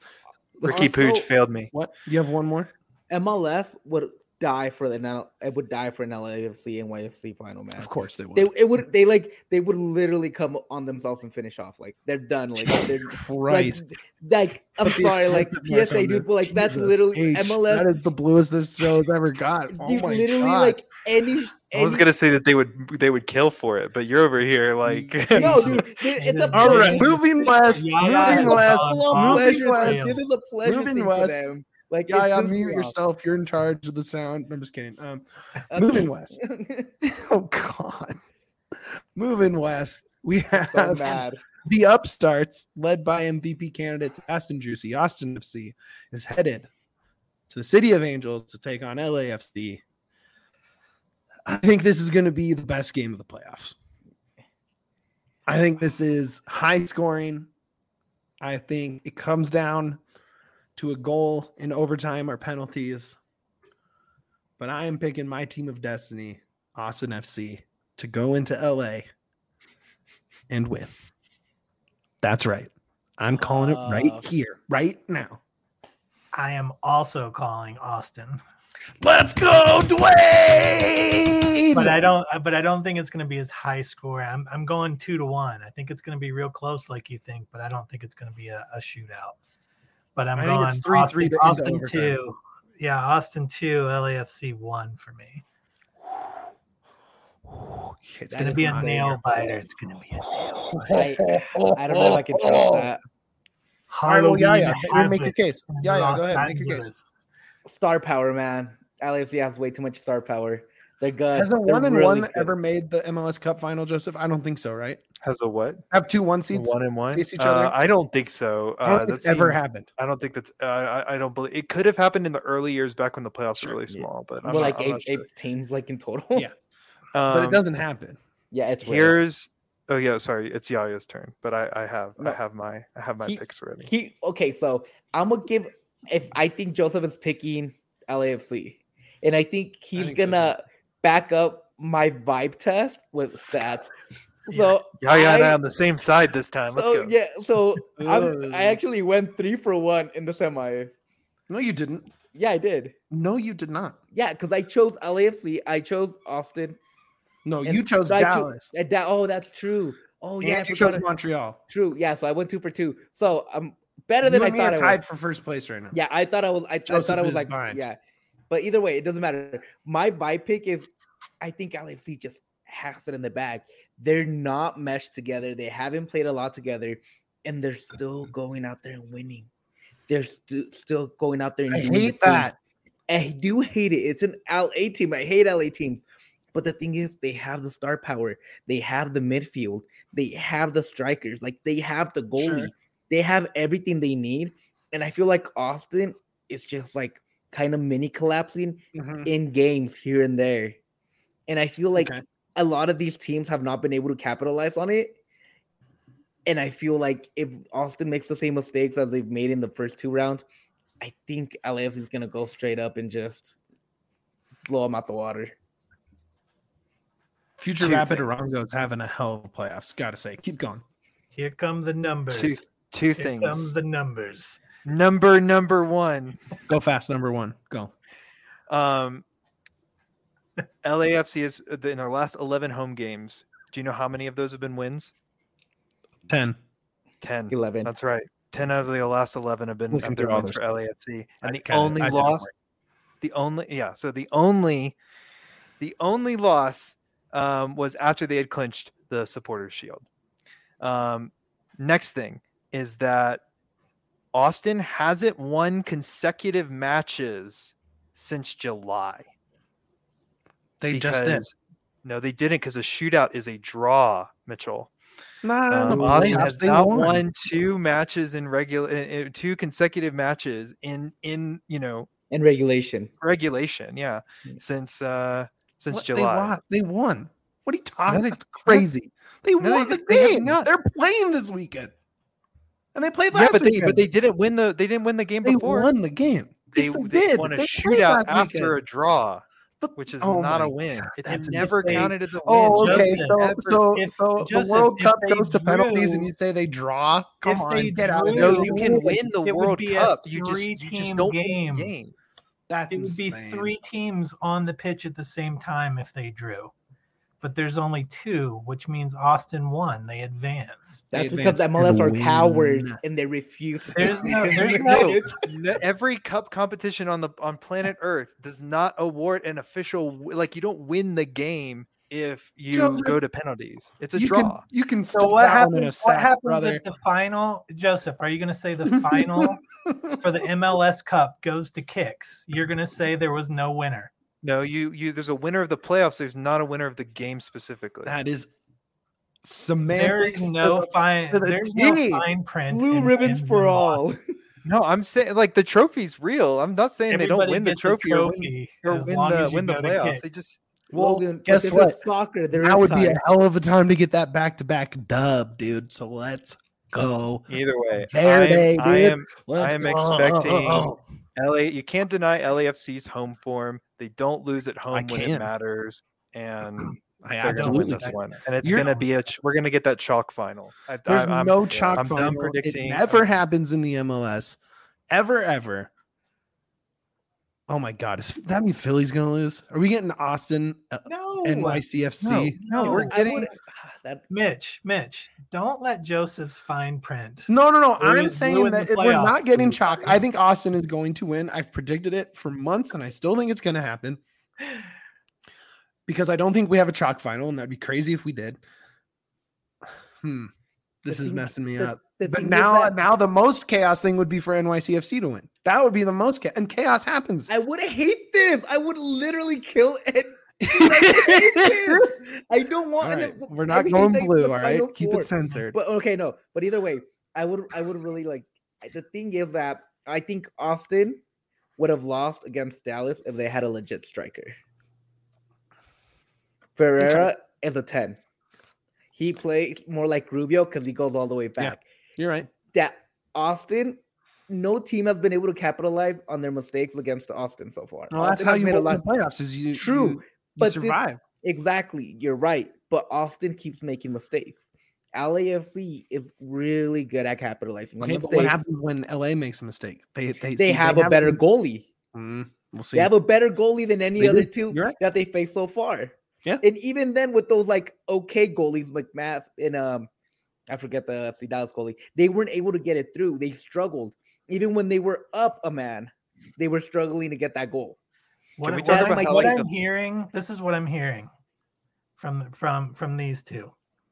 Ricky Pooch also- failed me. What? You have one more? M L S would die for the N- it would die for an L A F C and Y F C final match. Of course they will. They it would they like they would literally come on themselves and finish off like they're done like they're like, Christ. like I'm Put the sorry like exclamation P mark S A on dude this. but like that's Jesus literally H. M L S That is the bluest this show has ever got. Oh dude, my literally God. like any, I was any- gonna say that they would they would kill for it, but you're over here like no dude it- it's a All right, pleasure- moving west, Yeah, moving yeah, west, it's a Moving pleasure, west. dude. This is a pleasure Moving thing west. for them. Like Yeah, it yeah, pisses me mute off. yourself. You're in charge of the sound. I'm just kidding. Um, Uh, moving west. Oh God, moving west. We so have mad. the upstarts led by M V P candidates Aston Juicy. Austin F C is headed to the City of Angels to take on L A F C. I think this is going to be the best game of the playoffs. I think this is high scoring. I think it comes down to a goal in overtime or penalties. But I am picking my team of destiny, Austin F C, to go into L A and win. That's right. I'm calling it right Uh, here, right now. I am also calling Austin, Let's go, Dwayne! but I don't. But I don't think it's going to be as high score. I'm I'm going two to one. I think it's going to be real close, like you think, but I don't think it's going to be a, a shootout. But I'm I think going it's three, Austin, three to- into Austin overtime. two. Yeah, Austin two, L A F C one for me. It's It's going to is be a insane. nail biter. It's going to be a nail biter. I, I don't know if I can trust that. All right, well, yeah, yeah. Halloween Make your Havoc case. in Yeah, yeah. Los Go ahead. Make your case. Angeles. Star power, man. L A F C has way too much star power. They're good. Has a They're one and really one good. ever made the M L S Cup final, Joseph? I don't think so, right? Has a what? Have two one seeds One and one. face each Uh, other? I don't think so. I don't Uh, think that it's ever seems- happened. I don't think that's. Uh, I, I don't believe it could have happened in the early years back when the playoffs were really Yeah. small. But I'm Well, not, like I'm eight, not sure. eight teams, like in total. Yeah. But it Um, doesn't happen. yeah, it's rare. Here's. Oh yeah, sorry, it's Yaya's turn. But I, I have, No. I have my, I have my He- picks ready. He okay, so I'm gonna give if I think Joseph is picking L A F C, and I think he's think so, gonna back up my vibe test with stats. So Yaya and I I- on the same side this time. Let's so go. yeah, so I'm, Ugh. I actually went three for one in the semis. No, you didn't. Yeah, I did. No, you did not. Yeah, because I chose L A F C, I chose Austin. No, and you chose so I cho- Dallas. and that, oh, that's true. Oh yeah, I and you forgot chose it. Montreal. True. Yeah, so I went two for two. So I'm better You than I and me thought are I tied was. for first place right now. Yeah, I thought I was. I, I Joseph thought I was is like, behind. yeah. But either way, it doesn't matter. My buy pick is, I think L A F C just has it in the bag. They're not meshed together. They haven't played a lot together, and they're still going out there and winning. They're stu- still going out there and I doing the hate things. that. I do hate it. It's an L A team. I hate L A teams. But the thing is, they have the star power. They have the midfield. They have the strikers. Like, they have the goalie. Sure. They have everything they need. And I feel like Austin is just like kind of mini collapsing Mhm. in games here and there. And I feel like Okay. a lot of these teams have not been able to capitalize on it. And I feel like if Austin makes the same mistakes as they've made in the first two rounds, I think L A F C is going to go straight up and just blow them out the water. Future Two Rapid things. Arango's having a hell of playoffs. Gotta say, keep going. Here come the numbers. Two, two Here things. come the numbers. Number number one. Go fast, number one. Go. Um, L A F C is in their last eleven home games. Do you know how many of those have been wins? Ten. Ten. eleven. That's right. Ten out of the last eleven have been, Looking have been through all wins this for L A F C, I and the kinda- only I did loss, homework. the only yeah. So the only, the only loss um, was after they had clinched the Supporters Shield. Um, next thing is that Austin hasn't won consecutive matches since July. They just did. because- No, they didn't because a shootout is a draw, Mitchell. Nah, Um, the Austin playoffs, has they not won. won two matches in regular, in, in two consecutive matches in in you know And regulation. regulation. Yeah, Mm. since uh since What? They July. won. They won. What are you talking? they- That's crazy. They No, won they- the they have game. not. They're playing this weekend, and they played Yeah, last but they weekend. but they didn't win the they didn't win the game They before. won the game. They, Yes, they did. won a They played shootout last after weekend. a draw, But- which is oh not my a win. God, It's that's never insane. counted as a win. Oh, okay. Joseph, So, Never. so, If- so Joseph, the World if Cup they goes to penalties, and drew- you say they draw. Come if on, they get out of drew- there. No, you can win the It would World be a Cup. You just you just three-team don't game. win the game. That's It would be insane. three teams on the pitch at the same time if they drew. But there's only two, which means Austin won. They advanced. They That's because advanced the M L S are and cowards win. and they refuse. to There's play. no- there's No, no, every cup competition on the on planet Earth does not award an official w- like you don't win the game if you Joseph, go to penalties. It's a you draw. Can, you can So stick what that one in a happens? What sack, happens brother. at the final, Joseph? Are you going to say the final for the M L S Cup goes to kicks? You're going to say there was no winner. No, you you there's a winner of the playoffs. There's not a winner of the game specifically. That is There semantics. is to no the- fine. to the There's T. no fine print. Blue in ribbons wins for and all. losses. No, I'm saying like the trophy's real. I'm not saying they don't Everybody win the gets a trophy, or win, trophy or as win long the as you win the go to playoffs. kicks. They just Well, Logan, but guess this what? is soccer. There That is would be a time. hell of a time to get that back to back dub, dude. So let's go. Either way, Verde, I am, I dude. am, Let's I am go. expecting L A. You can't deny L A F C's home form. They don't lose at home when it can't. matters, and I they're going to win absolutely this can. one. And it's You're- going to be a. ch- We're going to get that chalk final. I, There's I, I'm, no chalk I'm final. done predicting. It never happens in the M L S, ever, ever. Oh my God! Is that mean Philly's gonna lose? Are we getting Austin, uh, No, N Y C F C? No, we're No, I getting. would- that Mitch, Mitch, don't let Joseph's fine print. No, no, no. Ruin- I'm saying ruin that the if we're playoffs. not getting chalk. I think Austin is going to win. I've predicted it for months, and I still think it's going to happen because I don't think we have a chalk final, and that'd be crazy if we did. Hmm. This The is thing- messing me the- up. the But thing is now, that- now the most chaos thing would be for N Y C F C to win. That would be the most chaos, and chaos happens. I would hate this. I would literally kill it. I don't want. All an- right, we're I not hate going the- blue. the All right, Final keep Four. it censored. But okay, no. But either way, I would. I would really like. The thing is that I think Austin would have lost against Dallas if they had a legit striker. Ferreira is a ten. He plays more like Rubio because he goes all the way back. You're right. That Austin, no team has been able to capitalize on their mistakes against Austin so far. Well, that's Austin how has you made a win lot. the playoffs. Is you True, you, you but the- survive. Exactly, you're right. But Austin keeps making mistakes. L A F C is really good at capitalizing on Okay, but mistakes. what happens when L A makes a mistake? They they They see- have a better goalie. Mm, we'll see. They have a better goalie than any They other do. two You're right. that they faced so far. Yeah. And even then, with those like okay goalies, McMath and um, I forget the F C Dallas goalie, they weren't able to get it through. They struggled. Even when they were up a man, they were struggling to get that goal. What, we what talk I'm- about how, what like, I'm the- hearing, this is what I'm hearing from from from these two.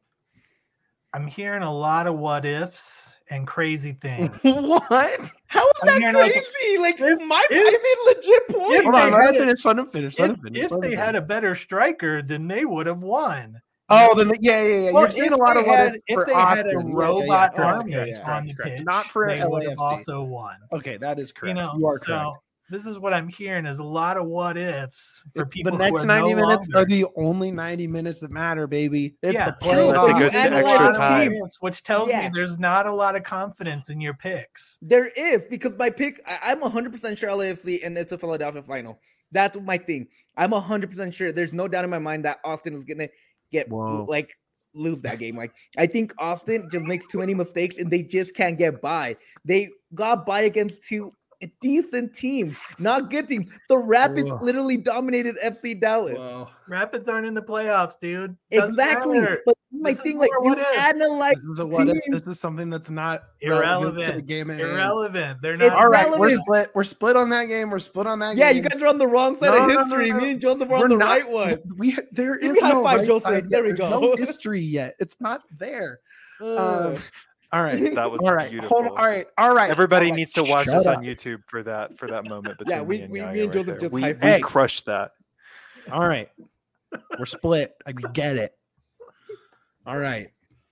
I'm hearing a lot of what ifs and crazy things. What? How is I'm that hearing, like, crazy? Like, if- my if- I made legit points. Hold on, they let had him a- finish. Let him finish. Let if him finish. if let him they finish. had a better striker, then they would have won. Oh, then yeah, yeah, yeah. Well, You're saying if a lot they of what had- if if for they had Austin. a Yeah, yeah, yeah, robot correct, army correct, on correct, the correct. pitch, Not for they would have L A F C. also won. Okay, that is correct. You know, you are so correct. this is what I'm hearing is a lot of what ifs for people. The who next are ninety no minutes longer. are the only ninety minutes that matter, baby. It's Yeah, the true, playoffs. Unless it but goes you to analyze extra the time. team. which tells Yeah. me there's not a lot of confidence in your picks. There is because my pick, I, I'm one hundred percent sure L A F C and it's a Philadelphia final. That's my thing. I'm one hundred percent sure. There's no doubt in my mind that Austin is gonna get Whoa. like lose that game. Like I think Austin just makes too many mistakes and they just can't get by. They got by against two decent teams, not good teams. The Rapids Ugh. literally dominated F C Dallas. Whoa. Rapids aren't in the playoffs, dude. Doesn't Exactly. matter. But my This is thing, like more you what if. analyze This is a what if. teams. This is something that's not relevant to the Irrelevant. game. At hand. Irrelevant. They're It's not. All right, we're relevant. split. We're split on that game. We're split on that Yeah, game. you guys are on the wrong side No, of no, no, history. no. Me and Joseph are We're on the not- right one. We there Give is me high no five, right Joseph. side There yet. we There's go. no history yet. It's not there. Ugh. Um, all right. That was All right. beautiful. Hold on. All right. All right. Everybody all right. needs to watch Shut this up. on YouTube for that for that moment between Yeah, we- me and we- me Yaya and right Joseph there. just we, high we five. crushed that. All right. We're split. I get it. All right.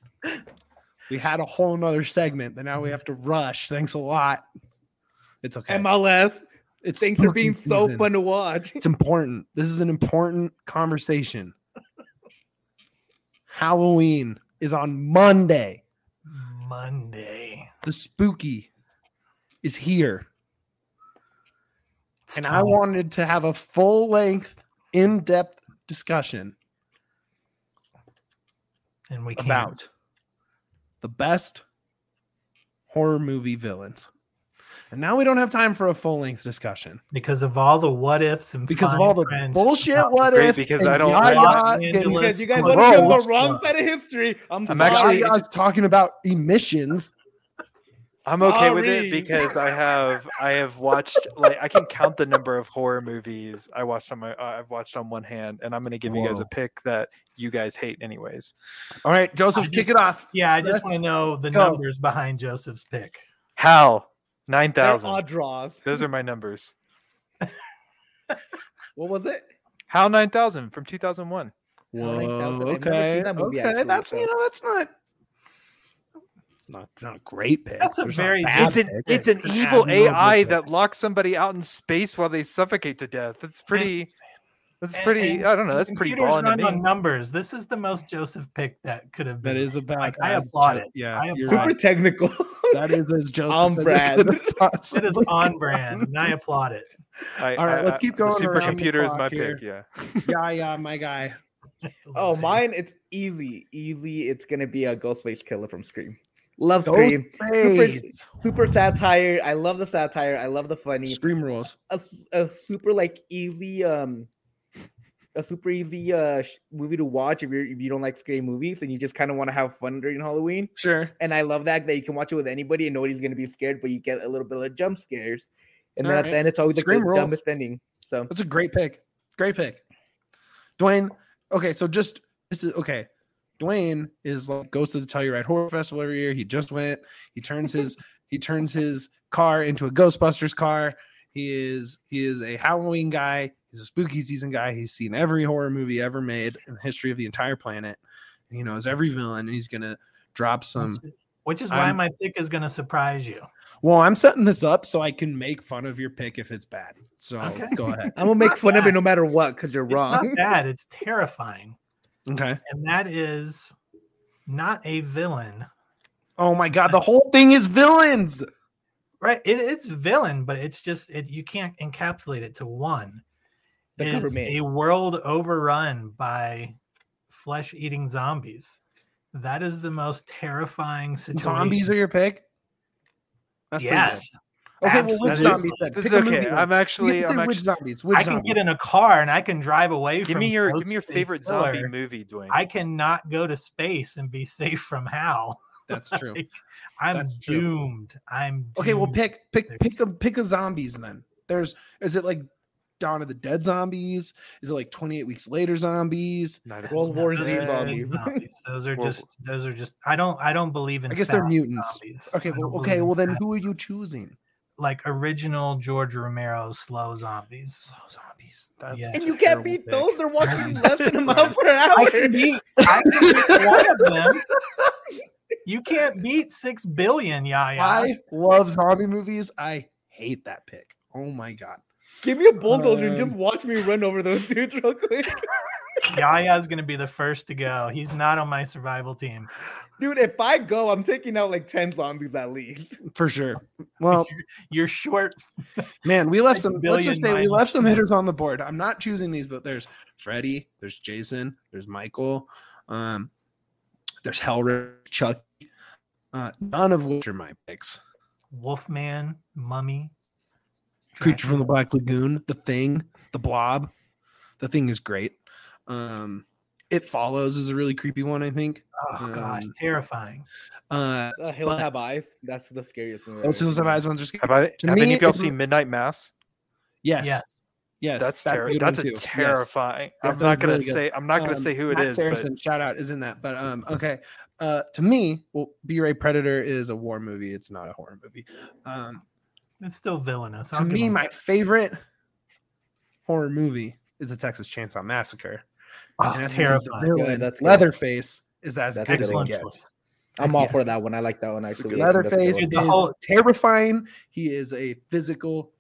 We had a whole nother segment that now we have to rush. Thanks a lot. It's okay. M L S. It's Things are being spooky so season. fun to watch. It's important. This is an important conversation. Halloween is on Monday. Monday. The spooky is here. It's And I time. wanted to have a full length, in depth discussion and we can't. about the best horror movie villains. And now we don't have time for a full length discussion because of all the what ifs and because of fine all the print. bullshit Oh, what great, if because and I don't Yaya watch getting- Angeles Because you guys Gross. want to be on the wrong Gross. side of history. I'm, I'm sorry. actually- Yaya's talking about emissions. I'm okay with Sorry. it because I have I have watched like I can count the number of horror movies I watched on my uh, I've watched on one hand, and I'm going to give you guys Whoa. a pick that you guys hate anyways. All right, Joseph, I kick just- it off. Yeah, I just Let's want to know the go. numbers behind Joseph's pick. Hal nine They're thousand. odd draws. Those are my numbers. What was it? Hal nine thousand from two thousand one. Whoa, nine thousand. I've never okay, seen that movie, okay. actually, That's so- you know that's not not not a great pick. That's a There's not very bad It's an pick. it's an It's an evil admirable A I pick. that locks somebody out in space while they suffocate to death. It's pretty. That's And- pretty. and I don't know. the That's pretty computers balling to run me. on numbers. This is the most Joseph pick that could have been. That is made. about. Like, I as applaud Jo- it. Yeah, I you're applaud Super right. technical. That is as Joseph On as it brand. could have It possibly is on brand, and I applaud it. I, All right, I- let's I- keep the going around the supercomputer is clock my here. pick. Yeah. Yeah, yeah, my guy. Oh, mine, it's easy. Easy. It's going to be a Ghostface Killer from Scream. Love Scream. Super, Ghostface. super satire. I love the satire. I love the funny. Scream rules. A, a super like easy um a super easy uh sh- movie to watch if you if you don't like scary movies and you just kind of want to have fun during Halloween. Sure. And I love that that you can watch it with anybody and nobody's gonna be scared, but you get a little bit of jump scares. And then All at right. the end, it's always like Scream the rules. dumbest ending. So That's a great pick. Great pick. Dwayne. Okay, so just this is okay. Dwayne is like goes to the Telluride Horror Festival every year. He just went. He turns his he turns his car into a Ghostbusters car. He is he is a Halloween guy. He's a spooky season guy. He's seen every horror movie ever made in the history of the entire planet. And he knows every villain, and he's gonna drop some. Which is why I'm- my pick is going to surprise you. Well, I'm setting this up so I can make fun of your pick if it's bad. So Okay. go ahead. I'm gonna make not fun of it bad. no matter what because you're It's wrong. not bad. It's terrifying, Okay. and that is not a villain. Oh my god, the whole thing is villains. Right? It, it's villain, but it's just it. You can't encapsulate it to one. The It is government. a world overrun by flesh-eating zombies. That is the most terrifying situation. Zombies are your pick? That's pretty yes. good. Okay, well, which Absolutely. zombies then? This Pick is a movie okay. then. I'm You actually. can say I'm which actually. zombies? Which I can zombies? get in a car and I can drive away Give from me your. Give me your Ghostface favorite zombie Killer. movie, Dwayne. I cannot go to space and be safe from Hal. That's true. Like, I'm That's true. doomed. I'm Okay, well, doomed. pick pick pick a pick a zombies then. There's is it like Dawn of the Dead zombies? Is it like twenty-eight Weeks Later zombies? Night of- World War Those Z are zombies. zombies. Those are World just. Those are just. I don't. I don't believe in. I guess they're fast mutants. zombies. Okay, I well, don't okay, believe well in then fast- who are you choosing? like original George Romero slow zombies. Slow zombies. That's Yeah. And a you can't terrible beat pick. those. They're walking less than a mile per hour. I can beat. I can beat one of them. You can't beat six billion, Yaya. I love zombie movies. I hate that pick. Oh my god. Give me a bulldozer and Um, just watch me run over those dudes real quick. Yaya's gonna be the first to go. He's not on my survival team. Dude, if I go, I'm taking out like ten zombies at least. For sure. Well, You're, you're short. man, we left Six some. Let's just say billion we left minus some ten. hitters on the board. I'm not choosing these, but there's Freddy, there's Jason, there's Michael, um, there's Hellraiser, Chucky. Uh, none of which are my picks. Wolfman, Mummy, Creature from the Black Lagoon, The Thing, The Blob. The Thing is great. Um, It Follows is a really creepy one, I think. Oh gosh, Um, terrifying. Uh, Uh, Hills But- Have Eyes. That's the scariest movie. I've those ever Hills Have seen. Eyes ones are scary. Have I? To Have me, any of y'all it's- seen Midnight Mass? Yes. Yes. Yes. That's a terrible. good That's one a too. Yes. terrifying. Yeah, I'm that not was gonna really good. say. I'm not gonna Um, say who it Matt is. Saracen, shout out, is in that. But um, okay. Uh, to me, well, B-Ray Predator is a war movie. It's not a horror movie. Um, It's still villainous. to I'll give me, him my that. favorite horror movie is the Texas Chainsaw Massacre. Oh, And that's because the terrifying. villain, Yeah, that's good. Leatherface is as That's good as it Excellent gets. choice. I'm all Yes. for that one. I like that one actually. good- I think that's a good Leatherface one. Dude, is the whole- terrifying. He is a physical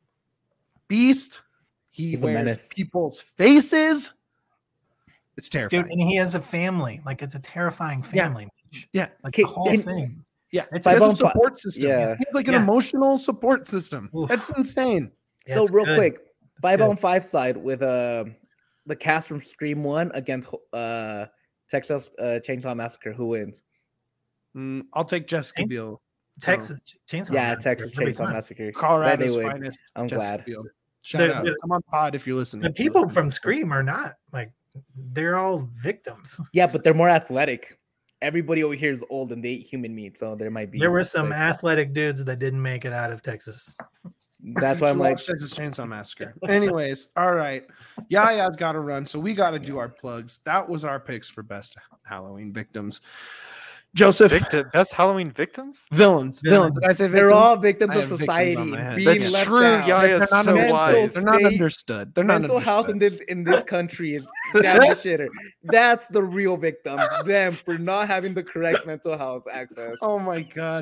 beast. He He's a wears menace. people's faces. It's terrifying. Dude, and he has a family. Like it's a terrifying Yeah. family. yeah. Like Can- the whole can- thing. Yeah, It's he has Five a on fi- support system. yeah. He has like an Yeah. emotional support system. Oof. That's insane. Yeah, So it's real good. quick, five good. on five side with uh the cast from Scream One against uh Texas uh, Chainsaw Massacre. Who wins? Mm, I'll take Jessica Chains- Biel. Texas Chainsaw. yeah, Massacre Texas every Chainsaw time. Massacre. Colorado's They win. finest. I'm Jessica glad. Biel. Shout The- out. the- I'm on pod if you're listening. The if you're people listening. from Scream are not like they're all victims. Yeah, but they're more athletic. Everybody over here is old and they eat human meat, so there might be. There were some like, athletic dudes that didn't make it out of Texas. that's why I'm She like, loves Texas Chainsaw Massacre. Anyways, all right. Yaya's got to run, so we got to do our plugs. That was our picks for best Halloween victims. Joseph, Victim, best Halloween victims. villains, villains. Did I say they're victims? all victims I of have victims society. on my head. Being That's left true. out. Yeah, They're it's not so mental wise. They're not state, understood. They're not Mental health in understood. this in this country is damn the shitter. That's the real victims. Them for not having the correct mental health access. Oh my god.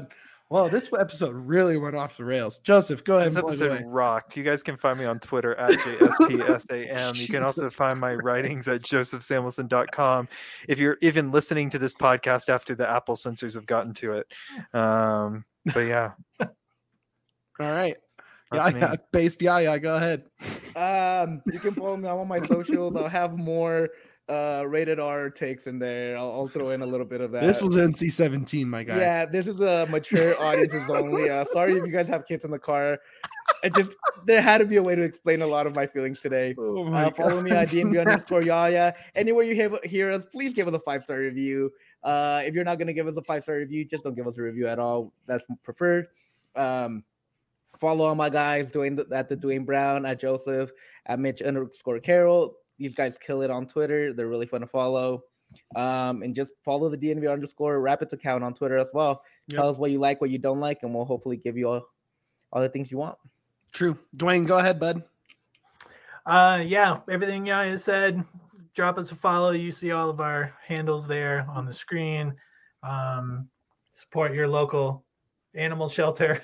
Well, this episode really went off the rails. Joseph, go ahead This and plug episode away. rocked. You guys can find me on Twitter at J S P S A M. You can also Jesus find my writings at joseph samuelson dot com. If you're even listening to this podcast after the Apple censors have gotten to it. Um, but yeah. All right. That's Yeah, me. based Yaya, go ahead. Um, you can follow me on all my socials. I'll have more uh rated R takes in there. I'll, I'll throw in a little bit of that. This was N C seventeen, my guy. Yeah, this is a mature audiences only. Uh, sorry if you guys have kids in the car. I just there had to be a way to explain a lot of my feelings today. Oh my Uh, follow me on God. D N B underscore Yaya. Anywhere you hear, hear us, please give us a five star review. Uh, if you're not gonna give us a five star review, just don't give us a review at all. That's preferred. Um, follow all my guys Dwayne at the Dwayne Brown, at Joseph, at Mitch underscore Carroll. These guys kill it on Twitter. They're really fun to follow. Um, and just follow the D N V underscore Rapids account on Twitter as well. Yep. Tell us what you like, what you don't like, and we'll hopefully give you all, all the things you want. True. Dwayne, go ahead, bud. Uh, yeah, everything Yaya said. Drop us a follow. You see all of our handles there on the screen. Um, support your local animal shelter.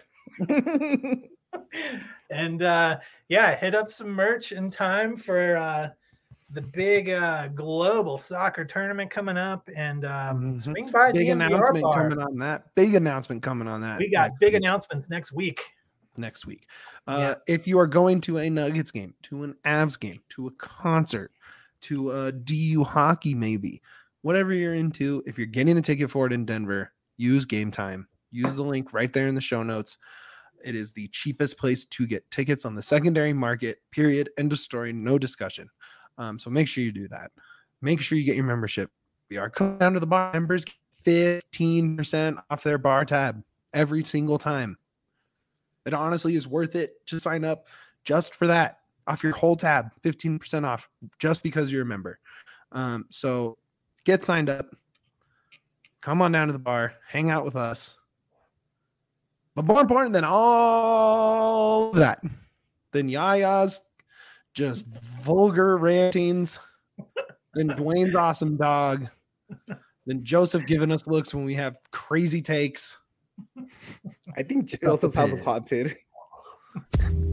And uh, yeah, hit up some merch in time for uh, the big uh, global soccer tournament coming up. And um, Mhm. swing by Big D N V R announcement Bar. coming on that. Big announcement coming on that. We got next big week. announcements next week. next week. Uh, If you are going to a Nuggets game, to an Avs game, to a concert, to a D U hockey, maybe, whatever you're into, if you're getting a ticket for it in Denver, use Game Time. Use the link right there in the show notes. It is the cheapest place to get tickets on the secondary market, period. End of story. No discussion. Um, so make sure you do that. Make sure you get your membership. We are coming down to the bar. Members get fifteen percent off their bar tab every single time. It honestly is worth it to sign up just for that. Off your whole tab, fifteen percent off just because you're a member. Um, so get signed up. Come on down to the bar. Hang out with us. But more important than all of that, than Yaya's just vulgar rantings, than Dwayne's awesome dog, than Joseph giving us looks when we have crazy takes. I think Pick up the Joseph's house is pen. haunted.